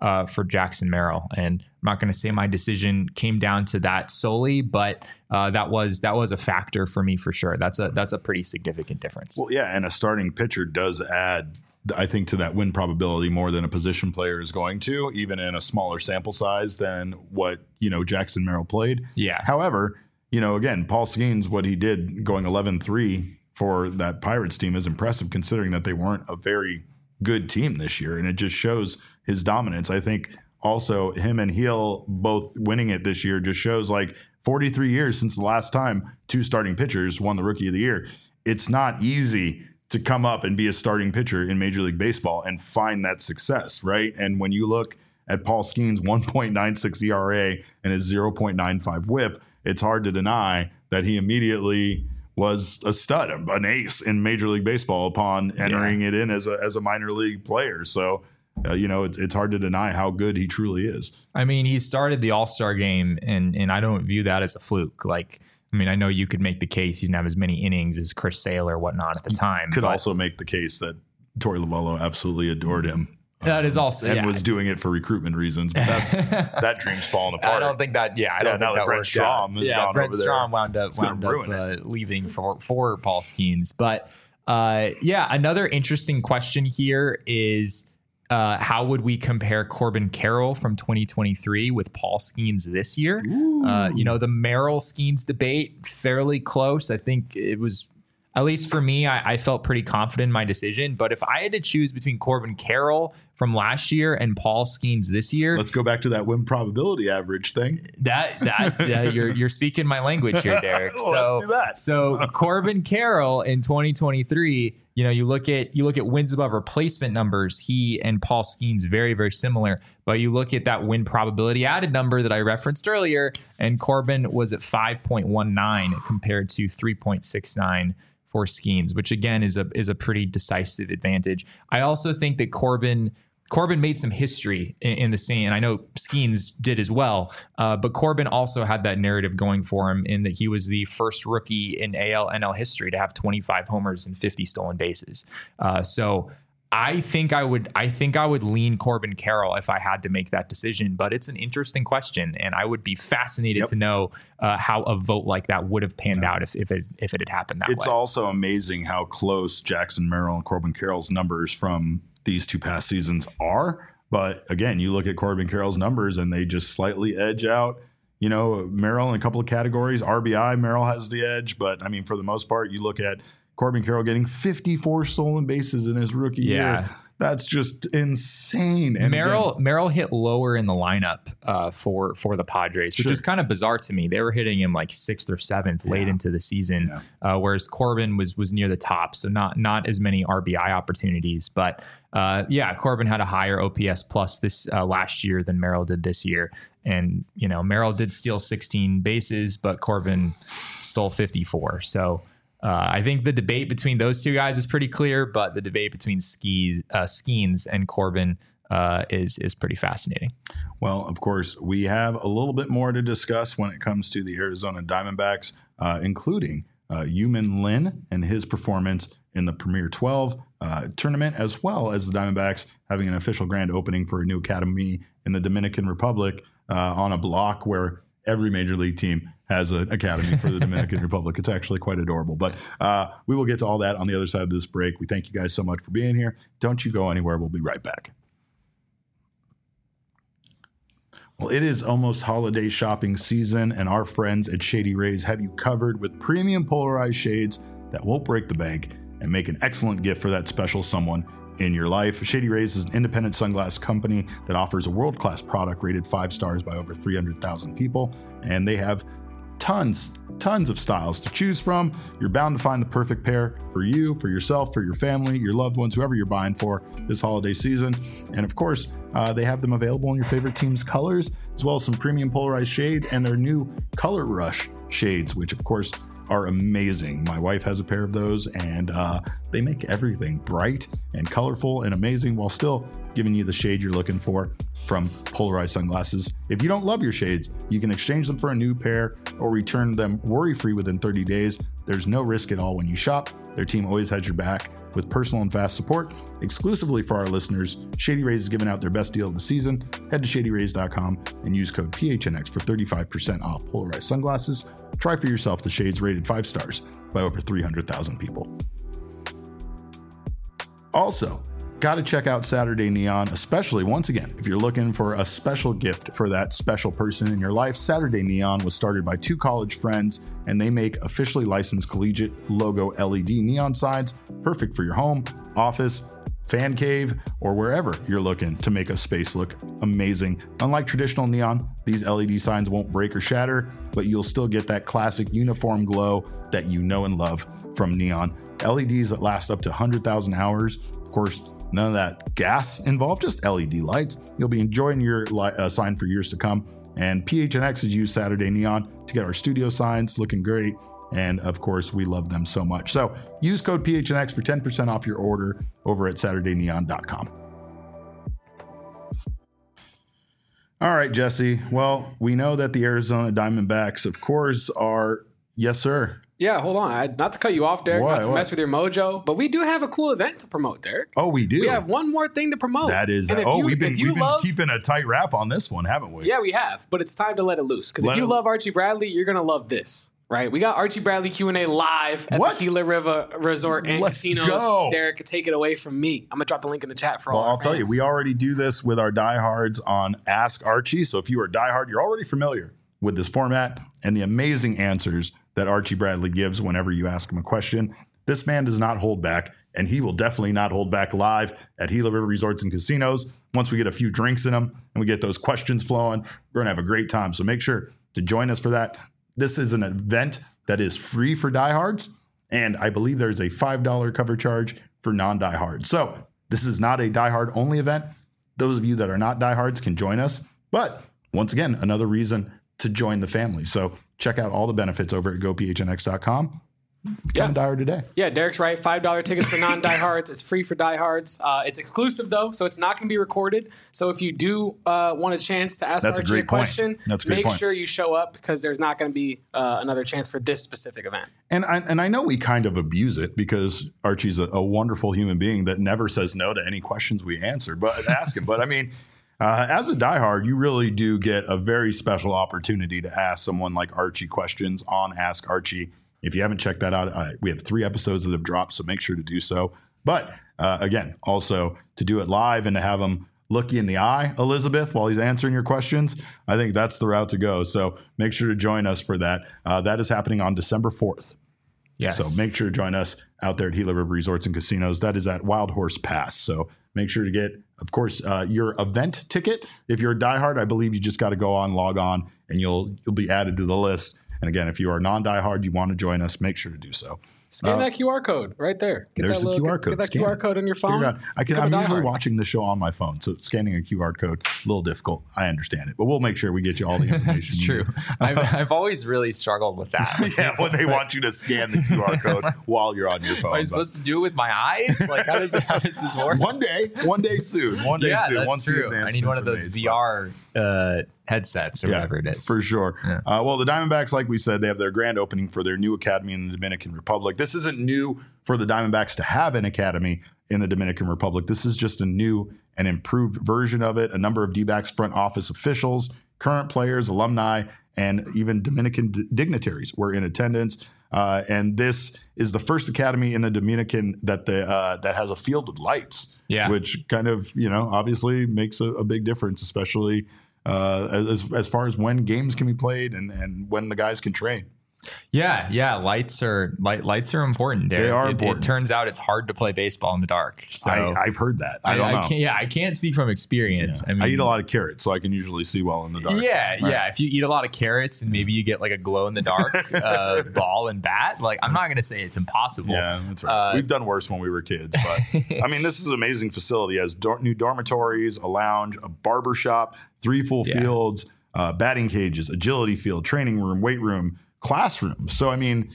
uh, for Jackson Merrill. And I'm not going to say my decision came down to that solely, but uh, that was that was a factor for me for sure. That's a that's a pretty significant difference. Well, yeah, and a starting pitcher does add, I think, to that win probability more than a position player is going to, even in a smaller sample size than what, you know, Jackson Merrill played. Yeah. However, you know, again, Paul Skeens, what he did going eleven three for that Pirates team is impressive, considering that they weren't a very good team this year. And it just shows his dominance. I think also him and Heel both winning it this year just shows like forty-three years since the last time two starting pitchers won the Rookie of the Year. It's not easy to come up and be a starting pitcher in Major League Baseball and find that success, right? And when you look at Paul Skeens' one point nine six E R A and his zero point nine five whip, it's hard to deny that he immediately was a stud, an ace in Major League Baseball upon entering yeah. it in as a as a minor league player. So, uh, you know, it's it's hard to deny how good he truly is. I mean, he started the All-Star game, and and I don't view that as a fluke. Like, I mean, I know you could make the case he didn't have as many innings as Chris Sale or whatnot at the time. You could also make the case that Torey Lovullo absolutely adored him. That is also and yeah. was doing it for recruitment reasons, but that, that dream's falling apart. I don't think that. Yeah, I don't yeah, think now that Brent worked Strom out. has yeah, gone Brent over Strom there. wound up It's wound gonna up ruin uh, leaving for for Paul Skeens. But uh, yeah, another interesting question here is uh, how would we compare Corbin Carroll from twenty twenty-three with Paul Skeens this year? Uh, you know, the Merrill Skeens debate fairly close. I think it was. At least for me, I, I felt pretty confident in my decision. But if I had to choose between Corbin Carroll from last year and Paul Skeens this year, let's go back to that win probability average thing. That that yeah, you're you're speaking my language here, Derek. well, so let's do that. So Corbin Carroll in twenty twenty-three, you know, you look at you look at wins above replacement numbers. He and Paul Skeens very very similar. But you look at that win probability added number that I referenced earlier, and Corbin was at five point one nine compared to three point six nine. For Skeens, which again is a is a pretty decisive advantage. I also think that Corbin Corbin made some history in, in the scene, and I know Skeens did as well. Uh, but Corbin also had that narrative going for him in that he was the first rookie in A L N L history to have twenty-five homers and fifty stolen bases. Uh, so. I think I would I think I would lean Corbin Carroll if I had to make that decision, but it's an interesting question, and I would be fascinated yep. to know uh, how a vote like that would have panned yeah. out if, if it if it had happened that it's way. It's also amazing how close Jackson Merrill and Corbin Carroll's numbers from these two past seasons are. But again, you look at Corbin Carroll's numbers and they just slightly edge out, you know, Merrill in a couple of categories. R B I, Merrill has the edge, but I mean, for the most part, you look at Corbin Carroll getting fifty-four stolen bases in his rookie yeah. year. That's just insane. And Merrill again, Merrill hit lower in the lineup uh, for for the Padres, which sure. is kind of bizarre to me. They were hitting him like sixth or seventh yeah. late into the season, yeah. uh, whereas Corbin was was near the top, so not not as many R B I opportunities. But uh, yeah, Corbin had a higher O P S plus this uh, last year than Merrill did this year, and you know Merrill did steal sixteen bases, but Corbin stole fifty-four. So. Uh, I think the debate between those two guys is pretty clear, but the debate between Skeens, uh, Skeens and Corbin uh, is is pretty fascinating. Well, of course, we have a little bit more to discuss when it comes to the Arizona Diamondbacks, uh, including uh, Yumin Lin and his performance in the Premier twelve uh, tournament, as well as the Diamondbacks having an official grand opening for a new academy in the Dominican Republic uh, on a block where every major league team has an academy for the Dominican Republic. It's actually quite adorable. But uh, we will get to all that on the other side of this break. We thank you guys so much for being here. Don't you go anywhere. We'll be right back. Well, it is almost holiday shopping season, and our friends at Shady Rays have you covered with premium polarized shades that won't break the bank and make an excellent gift for that special someone in your life. Shady Rays is an independent sunglass company that offers a world-class product rated five stars by over three hundred thousand people, and they have tons, tons of styles to choose from. You're bound to find the perfect pair for you, for yourself, for your family, your loved ones, whoever you're buying for this holiday season. And of course, uh, they have them available in your favorite team's colors, as well as some premium polarized shades and their new Color Rush shades, which of course are amazing. My wife has a pair of those, and uh, they make everything bright and colorful and amazing while still giving you the shade you're looking for from polarized sunglasses. If you don't love your shades, you can exchange them for a new pair or return them worry-free within thirty days. There's no risk at all when you shop. Their team always has your back with personal and fast support. Exclusively for our listeners, Shady Rays is giving out their best deal of the season. Head to shady rays dot com and use code P H N X for thirty-five percent off polarized sunglasses. Try for yourself the shades rated five stars by over three hundred thousand people. Also, got to check out Saturday Neon, especially once again, if you're looking for a special gift for that special person in your life. Saturday Neon was started by two college friends, and they make officially licensed collegiate logo L E D neon signs, perfect for your home, office, fan cave, or wherever you're looking to make a space look amazing. Unlike traditional neon, these L E D signs won't break or shatter, but you'll still get that classic uniform glow that you know and love from neon. L E Ds that last up to one hundred thousand hours. Of course, none of that gas involved, just L E D lights. You'll be enjoying your li- uh, sign for years to come. And P H N X has used Saturday Neon to get our studio signs looking great. And of course, we love them so much. So use code P H N X for ten percent off your order over at saturday neon dot com. All right, Jesse. Well, we know that the Arizona Diamondbacks, of course, are, yes, sir. Yeah, hold on. I, not to cut you off, Derek, What? not to What? mess with your mojo, but we do have a cool event to promote, Derek. Oh, we do. We have one more thing to promote. That is, And if oh, you- we've been, if you we've been love- keeping a tight wrap on this one, haven't we? Yeah, we have, but it's time to let it loose. Because if Let you it- love Archie Bradley, you're going to love this, right? We got Archie Bradley Q and A live at What? the Gila River Resort and Let's Casinos. go. Derek, take it away from me. I'm going to drop the link in the chat for Well, all our I'll tell you, fans. we already do this with our diehards on Ask Archie. So if you are a diehard, you're already familiar with this format and the amazing answers that Archie Bradley gives whenever you ask him a question. This man does not hold back, and he will definitely not hold back live at Gila River Resorts and Casinos. Once we get a few drinks in them and we get those questions flowing, we're going to have a great time. So make sure to join us for that. This is an event that is free for diehards, and I believe there's a five dollars cover charge for non-diehards. So this is not a diehard only event. Those of you that are not diehards can join us. But once again, another reason to join the family. So check out all the benefits over at go P H N X dot com. Become Yeah. a diehard today. Yeah, Derek's right. five dollars tickets for non-diehards. It's free for diehards. Uh, it's exclusive, though, so it's not going to be recorded. So if you do uh, want a chance to ask That's a Archie a, great point. question, That's a great make point. sure you show up because there's not going to be uh, another chance for this specific event. And I, and I know we kind of abuse it because Archie's a, a wonderful human being that never says no to any questions we answer, but ask him. But I mean, uh, as a diehard, you really do get a very special opportunity to ask someone like Archie questions on Ask Archie. If you haven't checked that out, uh, we have three episodes that have dropped, so make sure to do so. But uh, again, also to do it live and to have him look you in the eye, Elizabeth, while he's answering your questions, I think that's the route to go. So make sure to join us for that. Uh, that is happening on December fourth. Yes. So make sure to join us out there at Gila River Resorts and Casinos. That is at Wild Horse Pass. So make sure to get, of course, uh, your event ticket. If you're a diehard, I believe you just got to go on, log on, and you'll you'll be added to the list. And again, if you are non-diehard, you want to join us, make sure to do so. Scan Uh, that Q R code right there. Get there's that the little, Q R get- code. Get that Scan Q R it. code on your phone. Figure it out. I can, Become I'm a usually diehard. watching the show on my phone, so scanning a Q R code, a little difficult. I understand it, but we'll make sure we get you all the information. It's you true. need. I've, I've always really struggled with that. Yeah, when they want you to scan the Q R code while you're on your phone. Am I but- supposed to do it with my eyes? Like, how does how does this work? One day, one day soon. One day yeah, soon. that's once the true. I need one of those advancements are made, V R uh, headsets or Yeah, whatever it is. for sure. Yeah. Uh, well, the Diamondbacks, like we said, they have their grand opening for their new academy in the Dominican Republic. This isn't new for the Diamondbacks to have an academy in the Dominican Republic. This is just a new and improved version of it. A number of D-backs front office officials, current players, alumni, and even Dominican d- dignitaries were in attendance. Uh, and this is the first academy in the Dominican that the uh, that has a field with lights. Yeah. Which kind of, you know, obviously makes a, a big difference, especially uh, as as far as when games can be played and, and when the guys can train. Yeah, yeah. Lights are light, lights are important. Derek. They are It- important. It, turns out it's hard to play baseball in the dark. So I, I've heard that. I, don't know. can't, yeah, I can't speak from experience. Yeah. I mean, I eat a lot of carrots, so I can usually see well in the dark. Yeah, Right. yeah. If you eat a lot of carrots and maybe you get like a glow in the dark uh, ball and bat, like I'm not gonna say it's impossible. Yeah, that's right. Uh, We've done worse when we were kids, but I mean, this is an amazing facility. It has dor- new dormitories, a lounge, a barber shop, three full Yeah. fields, uh, batting cages, agility field, training room, weight room, classroom. So, I mean,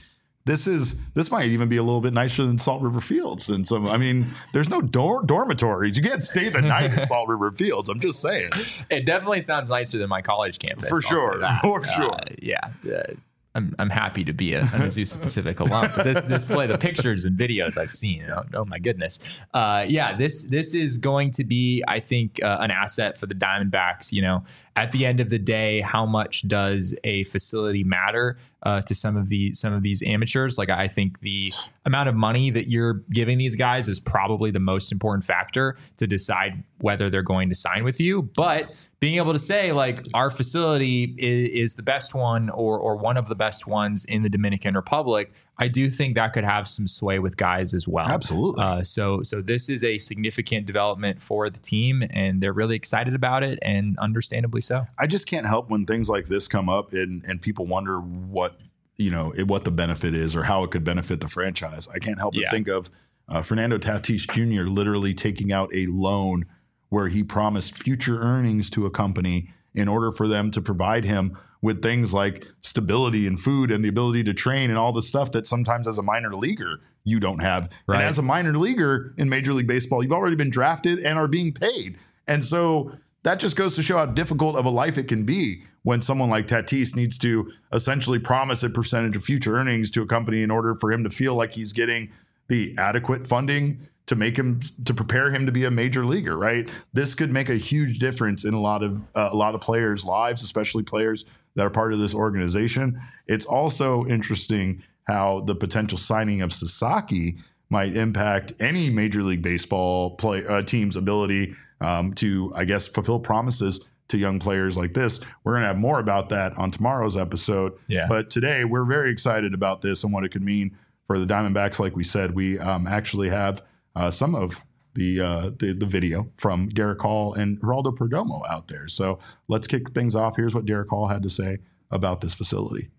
this is this might even be a little bit nicer than Salt River Fields than some. I mean, there's no dor- dormitories. You can't stay the night at Salt River Fields. I'm just saying. It definitely sounds nicer than my college campus. For sure. For sure. Uh, yeah. Uh, I'm I'm happy to be a, an Azusa Pacific alum, but this this play, the pictures and videos I've seen, oh, oh my goodness, uh, yeah, this this is going to be, I think, uh, an asset for the Diamondbacks. You know, at the end of the day, how much does a facility matter uh, to some of the some of these amateurs? Like, I think the amount of money that you're giving these guys is probably the most important factor to decide whether they're going to sign with you, but being able to say, like, our facility is, is the best one or or one of the best ones in the Dominican Republic, I do think that could have some sway with guys as well. Absolutely. Uh, so so this is a significant development for the team, and they're really excited about it, and understandably so. I just can't help when things like this come up and, and people wonder what, you know, it, what the benefit is or how it could benefit the franchise. I can't help but Yeah. think of uh, Fernando Tatis Junior literally taking out a loan where he promised future earnings to a company in order for them to provide him with things like stability and food and the ability to train and all the stuff that sometimes as a minor leaguer you don't have. Right. And as a minor leaguer in Major League Baseball, you've already been drafted and are being paid. And so that just goes to show how difficult of a life it can be when someone like Tatis needs to essentially promise a percentage of future earnings to a company in order for him to feel like he's getting the adequate funding to make him, to prepare him to be a major leaguer, right? This could make a huge difference in a lot of uh, a lot of players' lives, especially players that are part of this organization. It's also interesting how the potential signing of Sasaki might impact any Major League Baseball play uh, team's ability um, to, I guess, fulfill promises to young players like this. We're going to have more about that on tomorrow's episode. Yeah. But today we're very excited about this and what it could mean for the Diamondbacks. Like we said, we um, actually have uh, some of the, uh, the the video from Derek Hall and Geraldo Perdomo out there. So let's kick things off. Here's what Derek Hall had to say about this facility.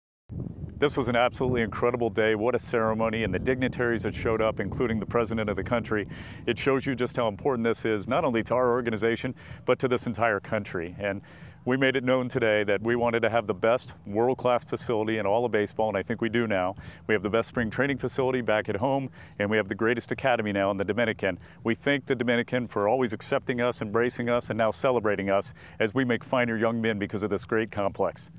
This was an absolutely incredible day. What a ceremony, and the dignitaries that showed up, including the president of the country. It shows you just how important this is, not only to our organization, but to this entire country. And we made it known today that we wanted to have the best world-class facility in all of baseball, and I think we do now. We have the best spring training facility back at home, and we have the greatest academy now in the Dominican. We thank the Dominican for always accepting us, embracing us, and now celebrating us as we make finer young men because of this great complex.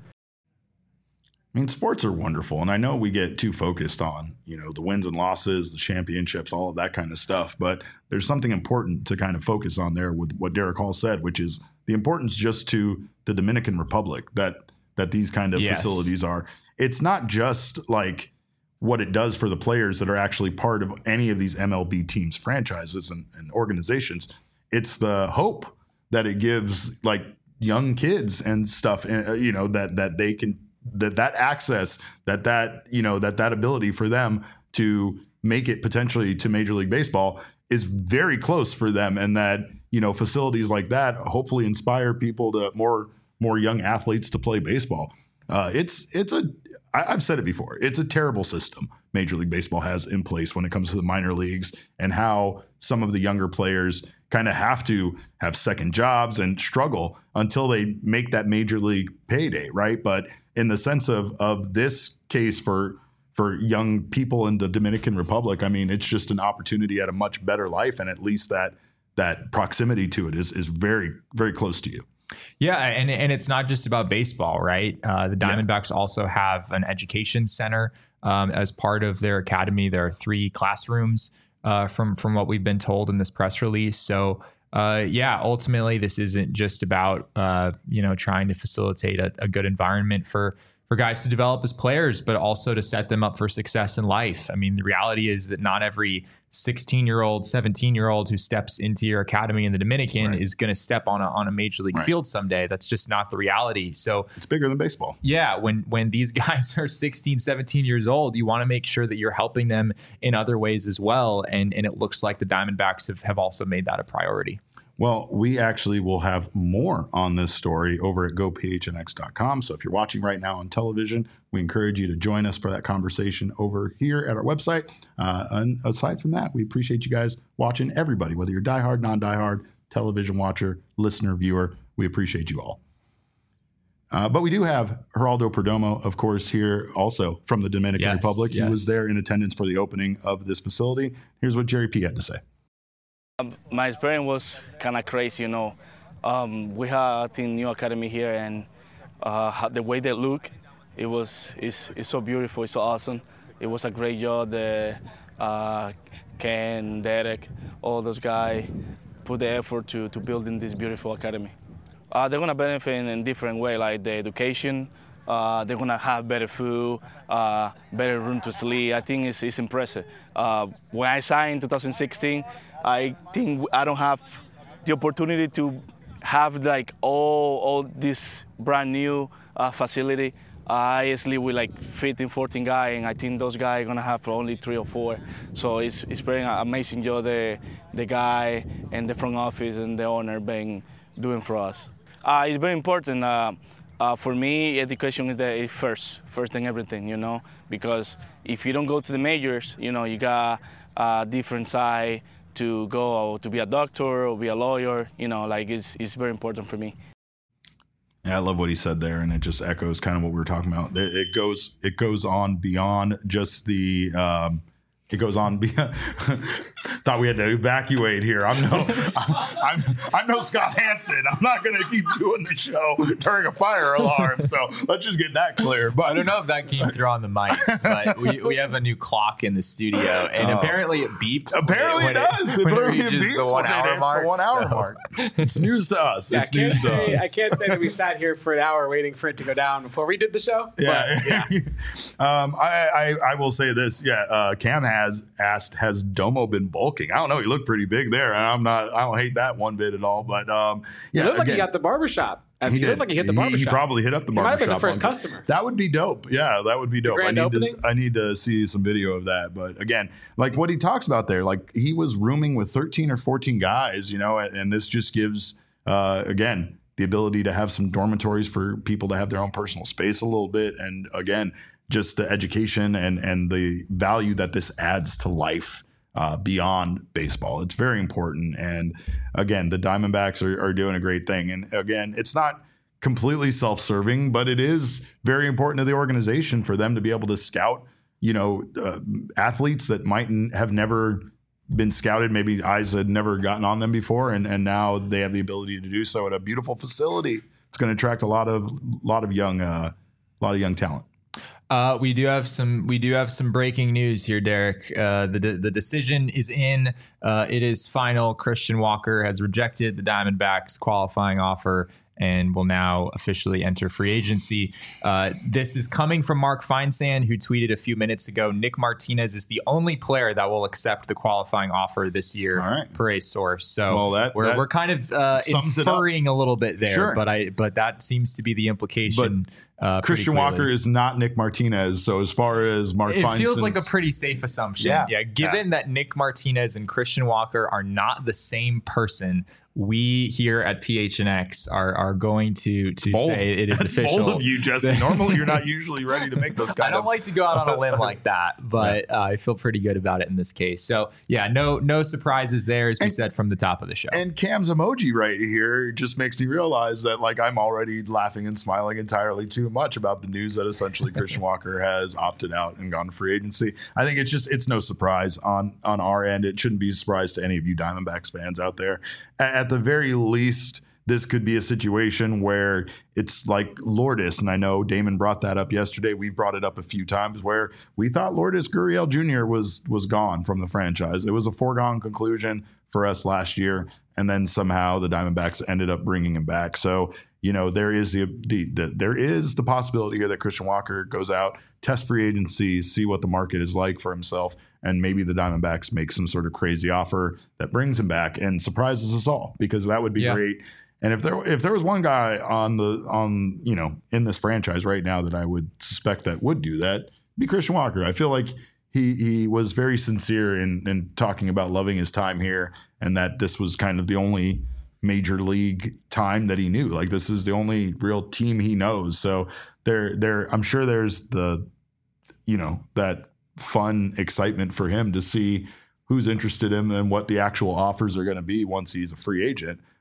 I mean, sports are wonderful, and I know we get too focused on, you know, the wins and losses, the championships, all of that kind of stuff, but there's something important to kind of focus on there with what Derek Hall said, which is the importance just to the Dominican Republic that that these kind of Yes. facilities are. It's not just like what it does for the players that are actually part of any of these M L B teams, franchises, and, and organizations. It's the hope that it gives, like, young kids and stuff, uh, you know, that that they can that that access, that that, you know, that that ability for them to make it potentially to Major League Baseball is very close for them. And that, you know, facilities like that hopefully inspire people to more, more young athletes to play baseball. Uh, it's, it's a, I, I've said it before, it's a terrible system Major League Baseball has in place when it comes to the minor leagues and how some of the younger players kind of have to have second jobs and struggle until they make that major league payday, right? But in the sense of of this case for for young people in the Dominican Republic, I mean, it's just an opportunity at a much better life, and at least that that proximity to it is is very, very close to you. Yeah, and and it's not just about baseball, right? Uh, the Diamondbacks yeah. also have an education center um, as part of their academy. There are three classrooms uh, from from what we've been told in this press release. So, uh, yeah, ultimately, this isn't just about uh, you know trying to facilitate a, a good environment for for guys to develop as players, but also to set them up for success in life. I mean, the reality is that not every sixteen-year-old, seventeen-year-old who steps into your academy in the Dominican right. is going to step on a on a major league right. field someday. That's just not the reality. So it's bigger than baseball. Yeah, when when these guys are sixteen, seventeen years old, you want to make sure that you're helping them in other ways as well. And and it looks like the Diamondbacks have, have also made that a priority. Well, we actually will have more on this story over at go p h n x dot com. So if you're watching right now on television, we encourage you to join us for that conversation over here at our website. Uh, and aside from that, we appreciate you guys watching, everybody, whether you're diehard, non-diehard, television watcher, listener, viewer. We appreciate you all. Uh, but we do have Geraldo Perdomo, of course, here also from the Dominican Yes, Republic. yes. He was there in attendance for the opening of this facility. Here's what Jerry P had to say. Um, my experience was kind of crazy, you know. Um, we have a team new academy here, and uh, how- the way they look, it was it's, it's so beautiful, it's so awesome. It was a great job. The uh, Ken, Derek, all those guys put the effort to to building this beautiful academy. Uh, they're gonna benefit in a different way, like the education. Uh, they're gonna have better food, uh, better room to sleep. I think it's, it's impressive. Uh, when I signed in two thousand sixteen, I think I don't have the opportunity to have like all all this brand new uh, facility. I sleep with like fifteen, fourteen guys, and I think those guys are gonna have only three or four. So it's it's very amazing job the the guy and the front office and the owner been doing for us. Uh, it's very important. Uh, uh, for me, education is the is first, first thing everything, you know, because if you don't go to the majors, you know, you got a different side to go to be a doctor or be a lawyer, you know, like it's, it's very important for me. Yeah, I love what he said there, and it just echoes kind of what we were talking about. It, it goes it goes on beyond just the um, it goes on beyond. Thought we had to evacuate here. I'm no I'm I'm no Scott Hansen. I'm not going to keep doing the show during a fire alarm. So let's just get that clear. But I don't know if that came through on the mics, but we, we have a new clock in the studio, and Oh. apparently it beeps. Apparently when it does. When it, Apparently it reaches beeps the one when it hour hits mark. the one hour so- mark. It's news to us. Yeah, I It's can't news to say I us. can't say that we sat here for an hour waiting for it to go down before we did the show. Yeah, But, yeah. um, I, I I will say this. Yeah, uh, Cam has asked, has Domo been bulking? I don't know. He looked pretty big there, and I'm not. I don't hate that one bit at all. But um, yeah, It looked like he again, got the barbershop. he He did. looked like he hit the He- barbershop. He, probably hit up the He might barbershop. have been the first on- customer. That would be dope. Yeah, that would be dope. I grand need opening? to. I need to see some video of that. But again, like what he talks about there, like he was rooming with thirteen or fourteen guys, you know, and, and this just gives uh, again the ability to have some dormitories for people to have their own personal space a little bit, and again, just the education and and the value that this adds to life. Uh, beyond baseball. It's very important. And again, the Diamondbacks are, are doing a great thing. And again, it's not completely self-serving, but it is very important to the organization for them to be able to scout, you know, uh, athletes that might n- have never been scouted. Maybe eyes had never gotten on them before. And, and now they have the ability to do so at a beautiful facility. It's going to attract a lot of, lot of young, uh, a lot of young talent. Uh, we do have some. We do have some breaking news here, Derek. Uh, the de- the decision is in. Uh, it is final. Christian Walker has rejected the Diamondbacks' qualifying offer and will now officially enter free agency. Uh, this is coming from Mark Feinsand, who tweeted a few minutes ago. Nick Martinez is the only player that will accept the qualifying offer this year, All right. per a source. So Well, that- we're that we're kind of uh, sums it up. inferring a little bit there, Sure. but I but that seems to be the implication. Uh, pretty Christian clearly. Walker is not Nick Martinez. So as far as Mark It feels Feinsand's- like a pretty safe assumption. Yeah. Yeah. Given that Nick Martinez and Christian Walker are not the same person, we here at P H N X are are going to to bold. say it is That's official. bold of you, Jesse. Normally, you're not usually ready to make those kind I don't of. like to go out on a limb like that, but uh, I feel pretty good about it in this case. So yeah, no no surprises there, as we And- said from the top of the show. And Cam's emoji right here just makes me realize that like I'm already laughing and smiling entirely too much about the news that essentially Christian Walker has opted out and gone to free agency. I think it's just it's no surprise on on our end. It shouldn't be a surprise to any of you Diamondbacks fans out there. A- At the very least, this could be a situation where it's like Lourdes, and I know Damon brought that up yesterday. We've brought it up a few times where we thought Lourdes Gurriel Junior was was gone from the franchise. It was a foregone conclusion for us last year, and then somehow the Diamondbacks ended up bringing him back. So you know there is the, the, the there is the possibility here that Christian Walker goes out, test free agency, see what the market is like for himself, and maybe the Diamondbacks make some sort of crazy offer that brings him back and surprises us all, because that would be Yeah. great. And if there if there was one guy on the on you know in this franchise right now that I would suspect that would do that, it'd be Christian Walker. I feel like he he was very sincere in in talking about loving his time here, and that this was kind of the only major league time that he knew. Like this is the only real team he knows. So there there I'm sure there's the you know that fun excitement for him to see who's interested in him and what the actual offers are going to be once he's a free agent.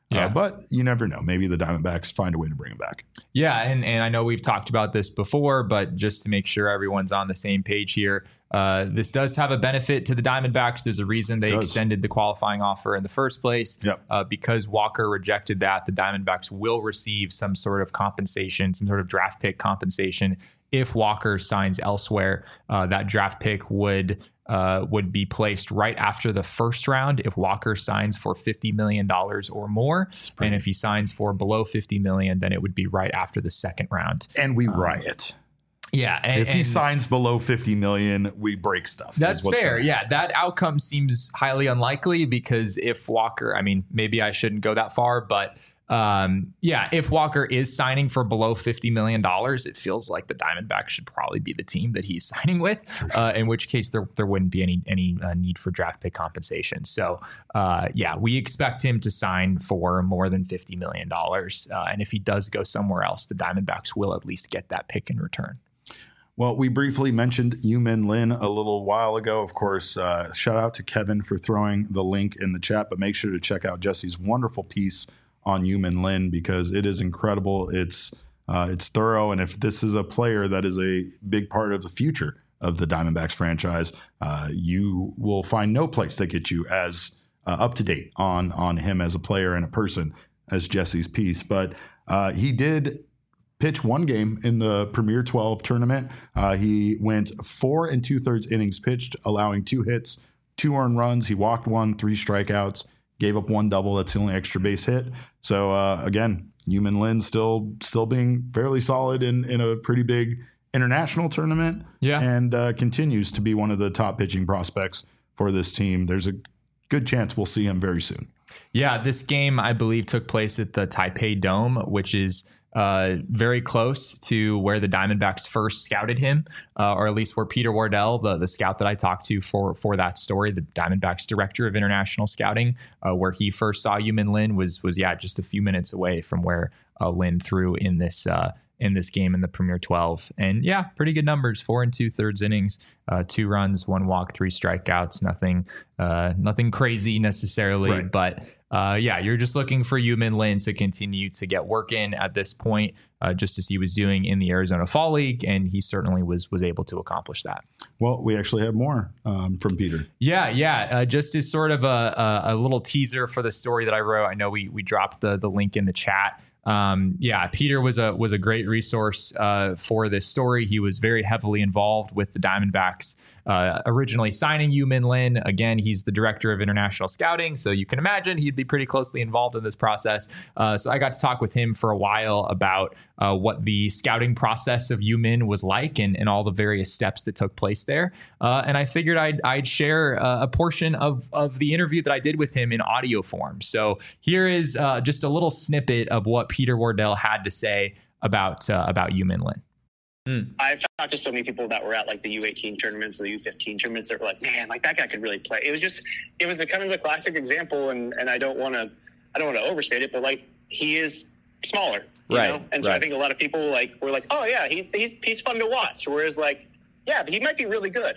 Yeah. Uh, but you never know. Maybe the Diamondbacks find a way to bring him back. Yeah, and, and I know we've talked about this before, but just to make sure everyone's on the same page here, uh, this does have a benefit to the Diamondbacks. There's a reason they extended the qualifying offer in the first place. Yep. Uh, because Walker rejected that, the Diamondbacks will receive some sort of compensation, some sort of draft pick compensation if Walker signs elsewhere. Uh, that draft pick would uh, would be placed right after the first round if Walker signs for fifty million dollars or more. And if he signs for below fifty million dollars, then it would be right after the second round. And we um, riot. Yeah. And, if he and signs below fifty million dollars, we break stuff. That's fair. Yeah. That outcome seems highly unlikely because if Walker, I mean, maybe I shouldn't go that far, but um, yeah, if Walker is signing for below fifty million dollars, it feels like the Diamondbacks should probably be the team that he's signing with, uh, in which case there, there wouldn't be any, any uh, need for draft pick compensation. So uh, yeah, we expect him to sign for more than fifty million dollars. Uh, and if he does go somewhere else, the Diamondbacks will at least get that pick in return. Well, we briefly mentioned Yu-Min Lin a little while ago. Of course, uh, shout out to Kevin for throwing the link in the chat, but make sure to check out Jesse's wonderful piece on Yu-Min Lin because it is incredible. It's uh, it's thorough, and if this is a player that is a big part of the future of the Diamondbacks franchise, uh, you will find no place that gets you as uh, up to date on on him as a player and a person as Jesse's piece. But uh, he did pitch one game in the Premier twelve tournament. Uh, he went four and two thirds innings pitched, allowing two hits, two earned runs. He walked one, three strikeouts, gave up one double. That's the only extra base hit. So uh, again, Yu-Min Lin still still being fairly solid in, in a pretty big international tournament. Yeah. And uh, continues to be one of the top pitching prospects for this team. There's a good chance we'll see him very soon. Yeah, this game, I believe, took place at the Taipei Dome, which is uh, very close to where the Diamondbacks first scouted him, uh, or at least where Peter Wardell, the, the scout that I talked to for for that story, the Diamondbacks director of international scouting, uh, where he first saw Yu-Min Lin was was yeah just a few minutes away from where uh, Lin threw in this uh, in this game in the Premier twelve. And yeah, pretty good numbers: four and two thirds innings, uh, two runs, one walk, three strikeouts. Nothing, uh, nothing crazy necessarily, right. but. Uh, yeah, you're just looking for Yu-Min Lin to continue to get work in at this point, uh, just as he was doing in the Arizona Fall League, and he certainly was was able to accomplish that. Well, we actually have more um, from Peter. Yeah, yeah. Uh, just as sort of a, a, a little teaser for the story that I wrote. I know we we dropped the the link in the chat. Um, yeah, Peter was a was a great resource uh, for this story. He was very heavily involved with the Diamondbacks, uh, originally signing Yu-Min Lin. Again, he's the director of international scouting, so you can imagine he'd be pretty closely involved in this process. Uh, so I got to talk with him for a while about uh, what the scouting process of Yu-Min was like and, and all the various steps that took place there. Uh, and I figured I'd, I'd share uh, a portion of, of the interview that I did with him in audio form. So here is uh, just a little snippet of what Peter Wardell had to say about uh, about Yu-Min Lin. Mm. I've talked to so many people that were at like the U eighteen tournaments, the U fifteen tournaments that were like, man, like that guy could really play. It was just, it was a kind of a classic example, and, and I don't want to, I don't want to overstate it, but like he is smaller, you right, know, and so right. I think a lot of people like were like, oh yeah, he's he's he's fun to watch. Whereas like, yeah, but he might be really good,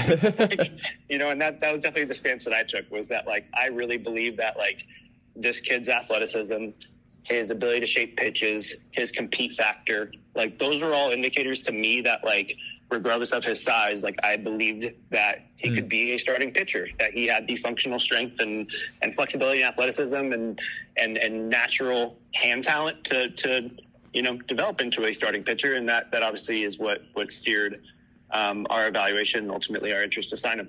you know, and that that was definitely the stance that I took, was that like I really believe that like this kid's athleticism, his ability to shape pitches, his compete factor, like those are all indicators to me that like, regardless of his size, like I believed that he mm. could be a starting pitcher, that he had the functional strength and, and flexibility and athleticism and, and, and natural hand talent to, to, you know, develop into a starting pitcher. And that, that obviously is what, what steered um, our evaluation and ultimately our interest to sign him.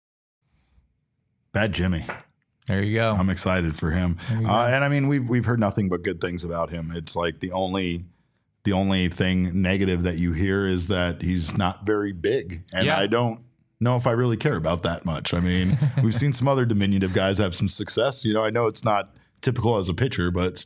Bad Jimmy. There you go. I'm excited for him. Uh, and I mean, we've, we've heard nothing but good things about him. It's like the only, the only thing negative that you hear is that he's not very big. And yeah. I don't know if I really care about that much. I mean, we've seen some other diminutive guys have some success. You know, I know it's not typical as a pitcher, but still.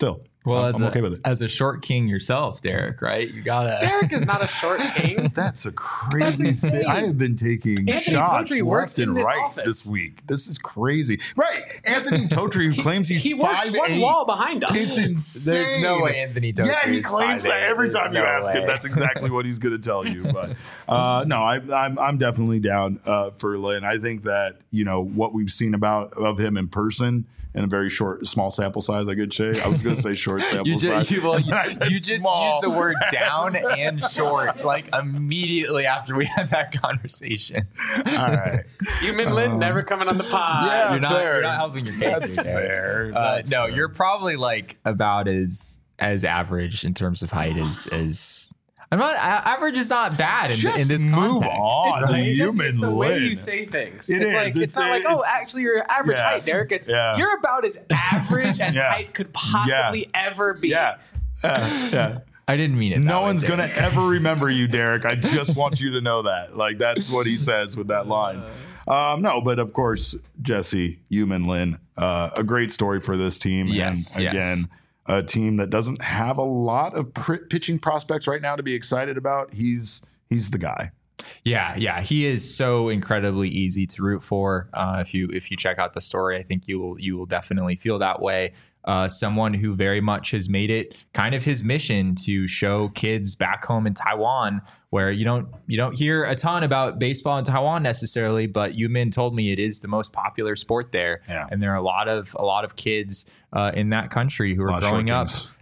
Well, I'm, as I'm a, okay with it. As a short king yourself, Derek, right? You gotta. Derek is not a short king. That's a crazy. That's insane. I have been taking Anthony shots Totri works left and in this right office. this week. This is crazy. Right, Anthony Totri, who claims he's He works five one eight. wall behind us. It's insane. There's no way Anthony Totri Yeah, he is claims five that eight. every There's time you no ask him. way. That's exactly what he's going to tell you. But uh, no, I, I'm I'm definitely down uh, for Lynn. I think that you know what we've seen about of him in person. In a very short, small sample size, I could say. I was going to say short sample You size. just, you, well, you, I said you just small. used the word down and short like immediately after we had that conversation. All right. Human Lin never coming on the pod. Yeah, You're not, fair. you're not helping your case. That's here, Derek. fair. Uh, That's no, fair. you're probably like about as as average in terms of height as as. I'm not. a- Average is not bad in, Just in this move context. on. It's the, the it's just- human it's the way Lin. you say things. It it's is. like it's, It's- not like, oh, it's- actually you're average Yeah. height, Derek. It's Yeah. you're about as average as Yeah. height could possibly ever be. Yeah. Uh, yeah. I didn't mean it. No that way, one's Derek. going to ever remember you, Derek. I just want you to know that. Like, that's what he says with that line. Um, no, but of course, Jesse, Human Lin, uh, a great story for this team. Yes, and yes. again, a team that doesn't have a lot of pr- pitching prospects right now to be excited about. He's he's the guy. Yeah, yeah, he is so incredibly easy to root for. Uh, if you if you check out the story, I think you will you will definitely feel that way. Uh, someone who very much has made it kind of his mission to show kids back home in Taiwan, where you don't you don't hear a ton about baseball in Taiwan necessarily, but Yumin told me it is the most popular sport there, Yeah. and there are a lot of a lot of kids uh, in that country who A are lot of growing short up. kings.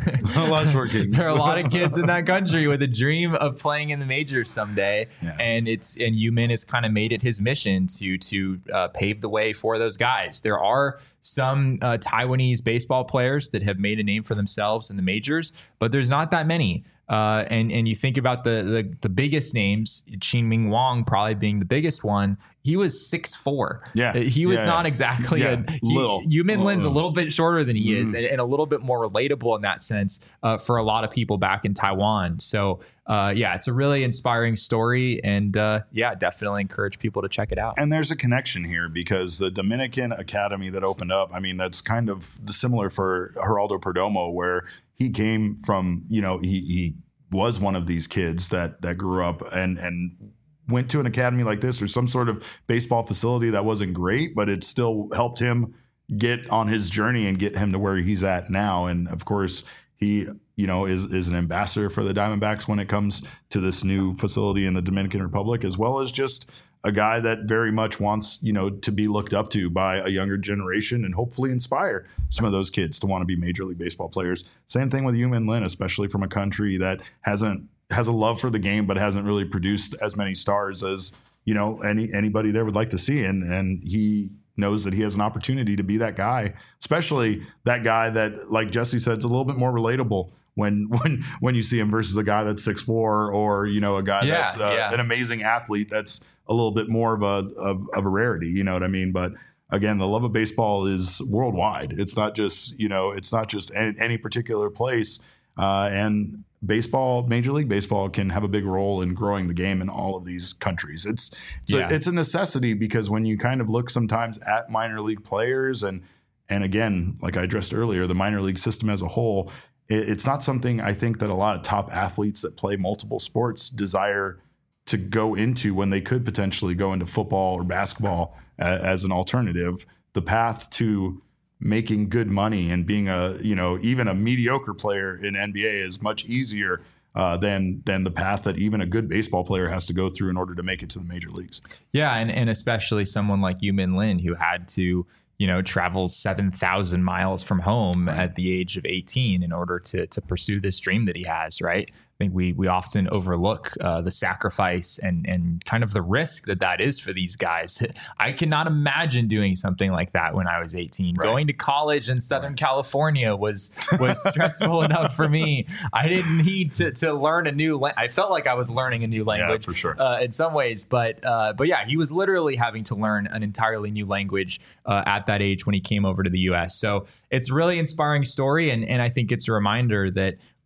a lot of short kings. There are a lot of kids in that country with a dream of playing in the majors someday, Yeah. and it's and Yumin has kind of made it his mission to to uh, pave the way for those guys. There are some uh, Taiwanese baseball players that have made a name for themselves in the majors, but there's not that many. Uh, and and you think about the, the the biggest names, Qin-Ming Wang probably being the biggest one. He was six foot four. Yeah. He was Yeah, not yeah. exactly Yeah, a he, little. Yumin Lin's a Uh-uh. little bit shorter than he is, Mhm. and, and a little bit more relatable in that sense uh, for a lot of people back in Taiwan. So uh, yeah, it's a really inspiring story, and uh, yeah, definitely encourage people to check it out. And there's a connection here because the Dominican Academy that opened up, I mean, that's kind of the similar for Geraldo Perdomo, where he came from, you know, he, he was one of these kids that that grew up and and went to an academy like this or some sort of baseball facility that wasn't great, but it still helped him get on his journey and get him to where he's at now. And of course, he, you know, is is an ambassador for the Diamondbacks when it comes to this new facility in the Dominican Republic, as well as just a guy that very much wants, you know, to be looked up to by a younger generation and hopefully inspire some of those kids to want to be Major League Baseball players. Same thing with Yumin Lin, especially from a country that hasn't has a love for the game, but hasn't really produced as many stars as, you know, any anybody there would like to see. And and he knows that he has an opportunity to be that guy, especially that guy that, like Jesse said, it's a little bit more relatable when when when you see him versus a guy that's six foot four or, you know, a guy Yeah, that's uh, yeah. an amazing athlete that's a little bit more of a of, of a rarity, you know what I mean? But again, the love of baseball is worldwide. It's not just, you know, it's not just any, any particular place. Uh, and baseball, Major League Baseball, can have a big role in growing the game in all of these countries. It's it's, Yeah. a, it's a necessity because when you kind of look sometimes at minor league players and and again, like I addressed earlier, the minor league system as a whole, it, it's not something I think that a lot of top athletes that play multiple sports desire to go into when they could potentially go into football or basketball uh, as an alternative. The path to making good money and being a, you know, even a mediocre player in N B A is much easier uh, than than the path that even a good baseball player has to go through in order to make it to the major leagues. Yeah, and, and especially someone like Yumin Lin who had to, you know, travel seven thousand miles from home at the age of eighteen in order to to pursue this dream that he has, right? I think we we often overlook uh, the sacrifice and and kind of the risk that that is for these guys. I cannot imagine doing something like that when I was eighteen. Right. Going to college in Southern California was was stressful enough for me. I didn't need to to learn a new. La- I felt like I was learning a new language for sure. uh, in some ways, but uh, but yeah, he was literally having to learn an entirely new language uh, at that age when he came over to the U S. So it's a really inspiring story, and and I think it's a reminder that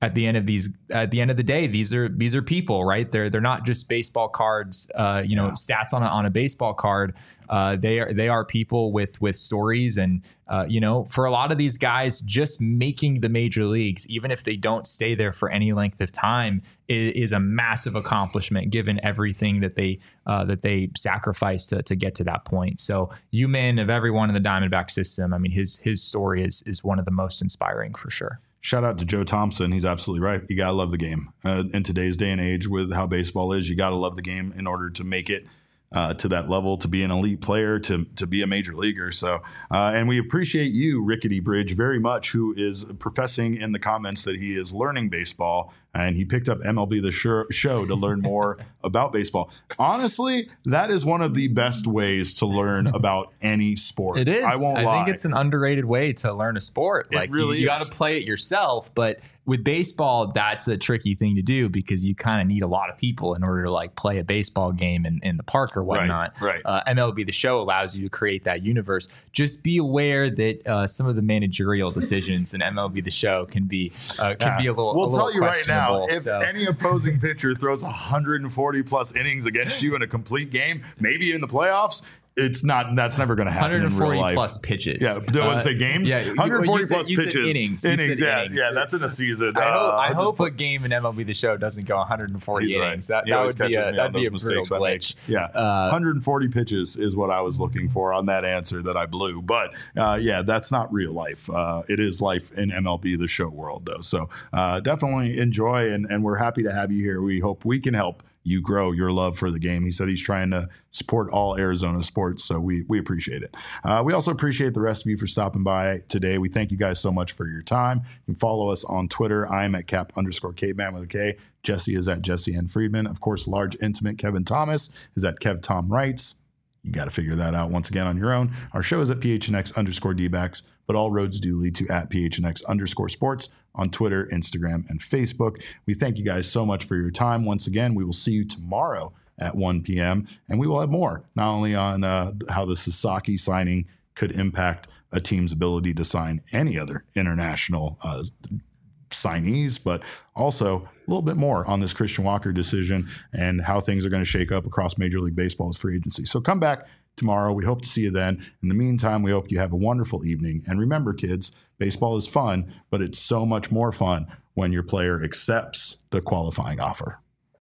at the end of these, at the end of the day, these are these are people, right? They're they're not just baseball cards, uh, you know, yeah. stats on a, on a baseball card. Uh, they are they are people with with stories, and uh, you know, for a lot of these guys, just making the major leagues, even if they don't stay there for any length of time, is, is a massive accomplishment given everything that they uh, that they sacrificed to to get to that point. So, Yu-Min, of everyone in the Diamondback system, I mean, his his story is is one of the most inspiring for sure. Shout out to Joe Thompson. He's absolutely right. You got to love the game. Uh, in today's day and age with how baseball is, you got to love the game in order to make it uh, to that level, to be an elite player, to to be a major leaguer. So, uh, and we appreciate you, Rickety Bridge, very much, who is professing in the comments that he is learning baseball, and he picked up M L B The Show to learn more about baseball. Honestly, that is one of the best ways to learn about any sport. It is. I won't I lie. think it's an underrated way to learn a sport. It like really you, you is. got to play it yourself, but with baseball, that's a tricky thing to do because you kind of need a lot of people in order to like play a baseball game in, in the park or whatnot. Right, right. Uh, M L B The Show allows you to create that universe. Just be aware that uh, some of the managerial decisions in M L B The Show can be uh, can Yeah. be a little. We'll a little tell you right now, if so. any opposing pitcher throws one hundred forty plus innings against you in a complete game, maybe in the playoffs, it's not. That's never going to happen in real life. plus pitches. Yeah, did I Uh, say games? Yeah, one hundred forty you said- plus you said pitches. innings. You Innings. said Yeah, innings. yeah. That's in a season. I hope, Uh, I hope a game in M L B The Show doesn't go one hundred forty He's right. innings. That, He that always would be catches a me that'd on be a those brutal mistakes I make. glitch. Yeah, Uh, one hundred forty pitches is what I was looking for on that answer that I blew. But uh, yeah, that's not real life. Uh, it is life in M L B The Show world, though. So uh, definitely enjoy, and, and we're happy to have you here. We hope we can help you grow your love for the game. He said he's trying to support all Arizona sports, so we we appreciate it. Uh, we also appreciate the rest of you for stopping by today. We thank you guys so much for your time. You can follow us on Twitter. I'm at cap underscore caveman with a K. Jesse is at Jesse N. Friedman. Of course, large intimate Kevin Thomas is at Kev Tom Wrights. You got to figure that out once again on your own. Our show is at P H N X underscore D-backs, but all roads do lead to at P H N X underscore sports on Twitter, Instagram, and Facebook. We thank you guys so much for your time. Once again, we will see you tomorrow at one p.m., and we will have more, not only on uh, how the Sasaki signing could impact a team's ability to sign any other international uh, signees, but also a little bit more on this Christian Walker decision and how things are going to shake up across Major League Baseball's free agency. So come back tomorrow. We hope to see you then. In the meantime, we hope you have a wonderful evening. And remember, kids, baseball is fun, but it's so much more fun when your player accepts the qualifying offer.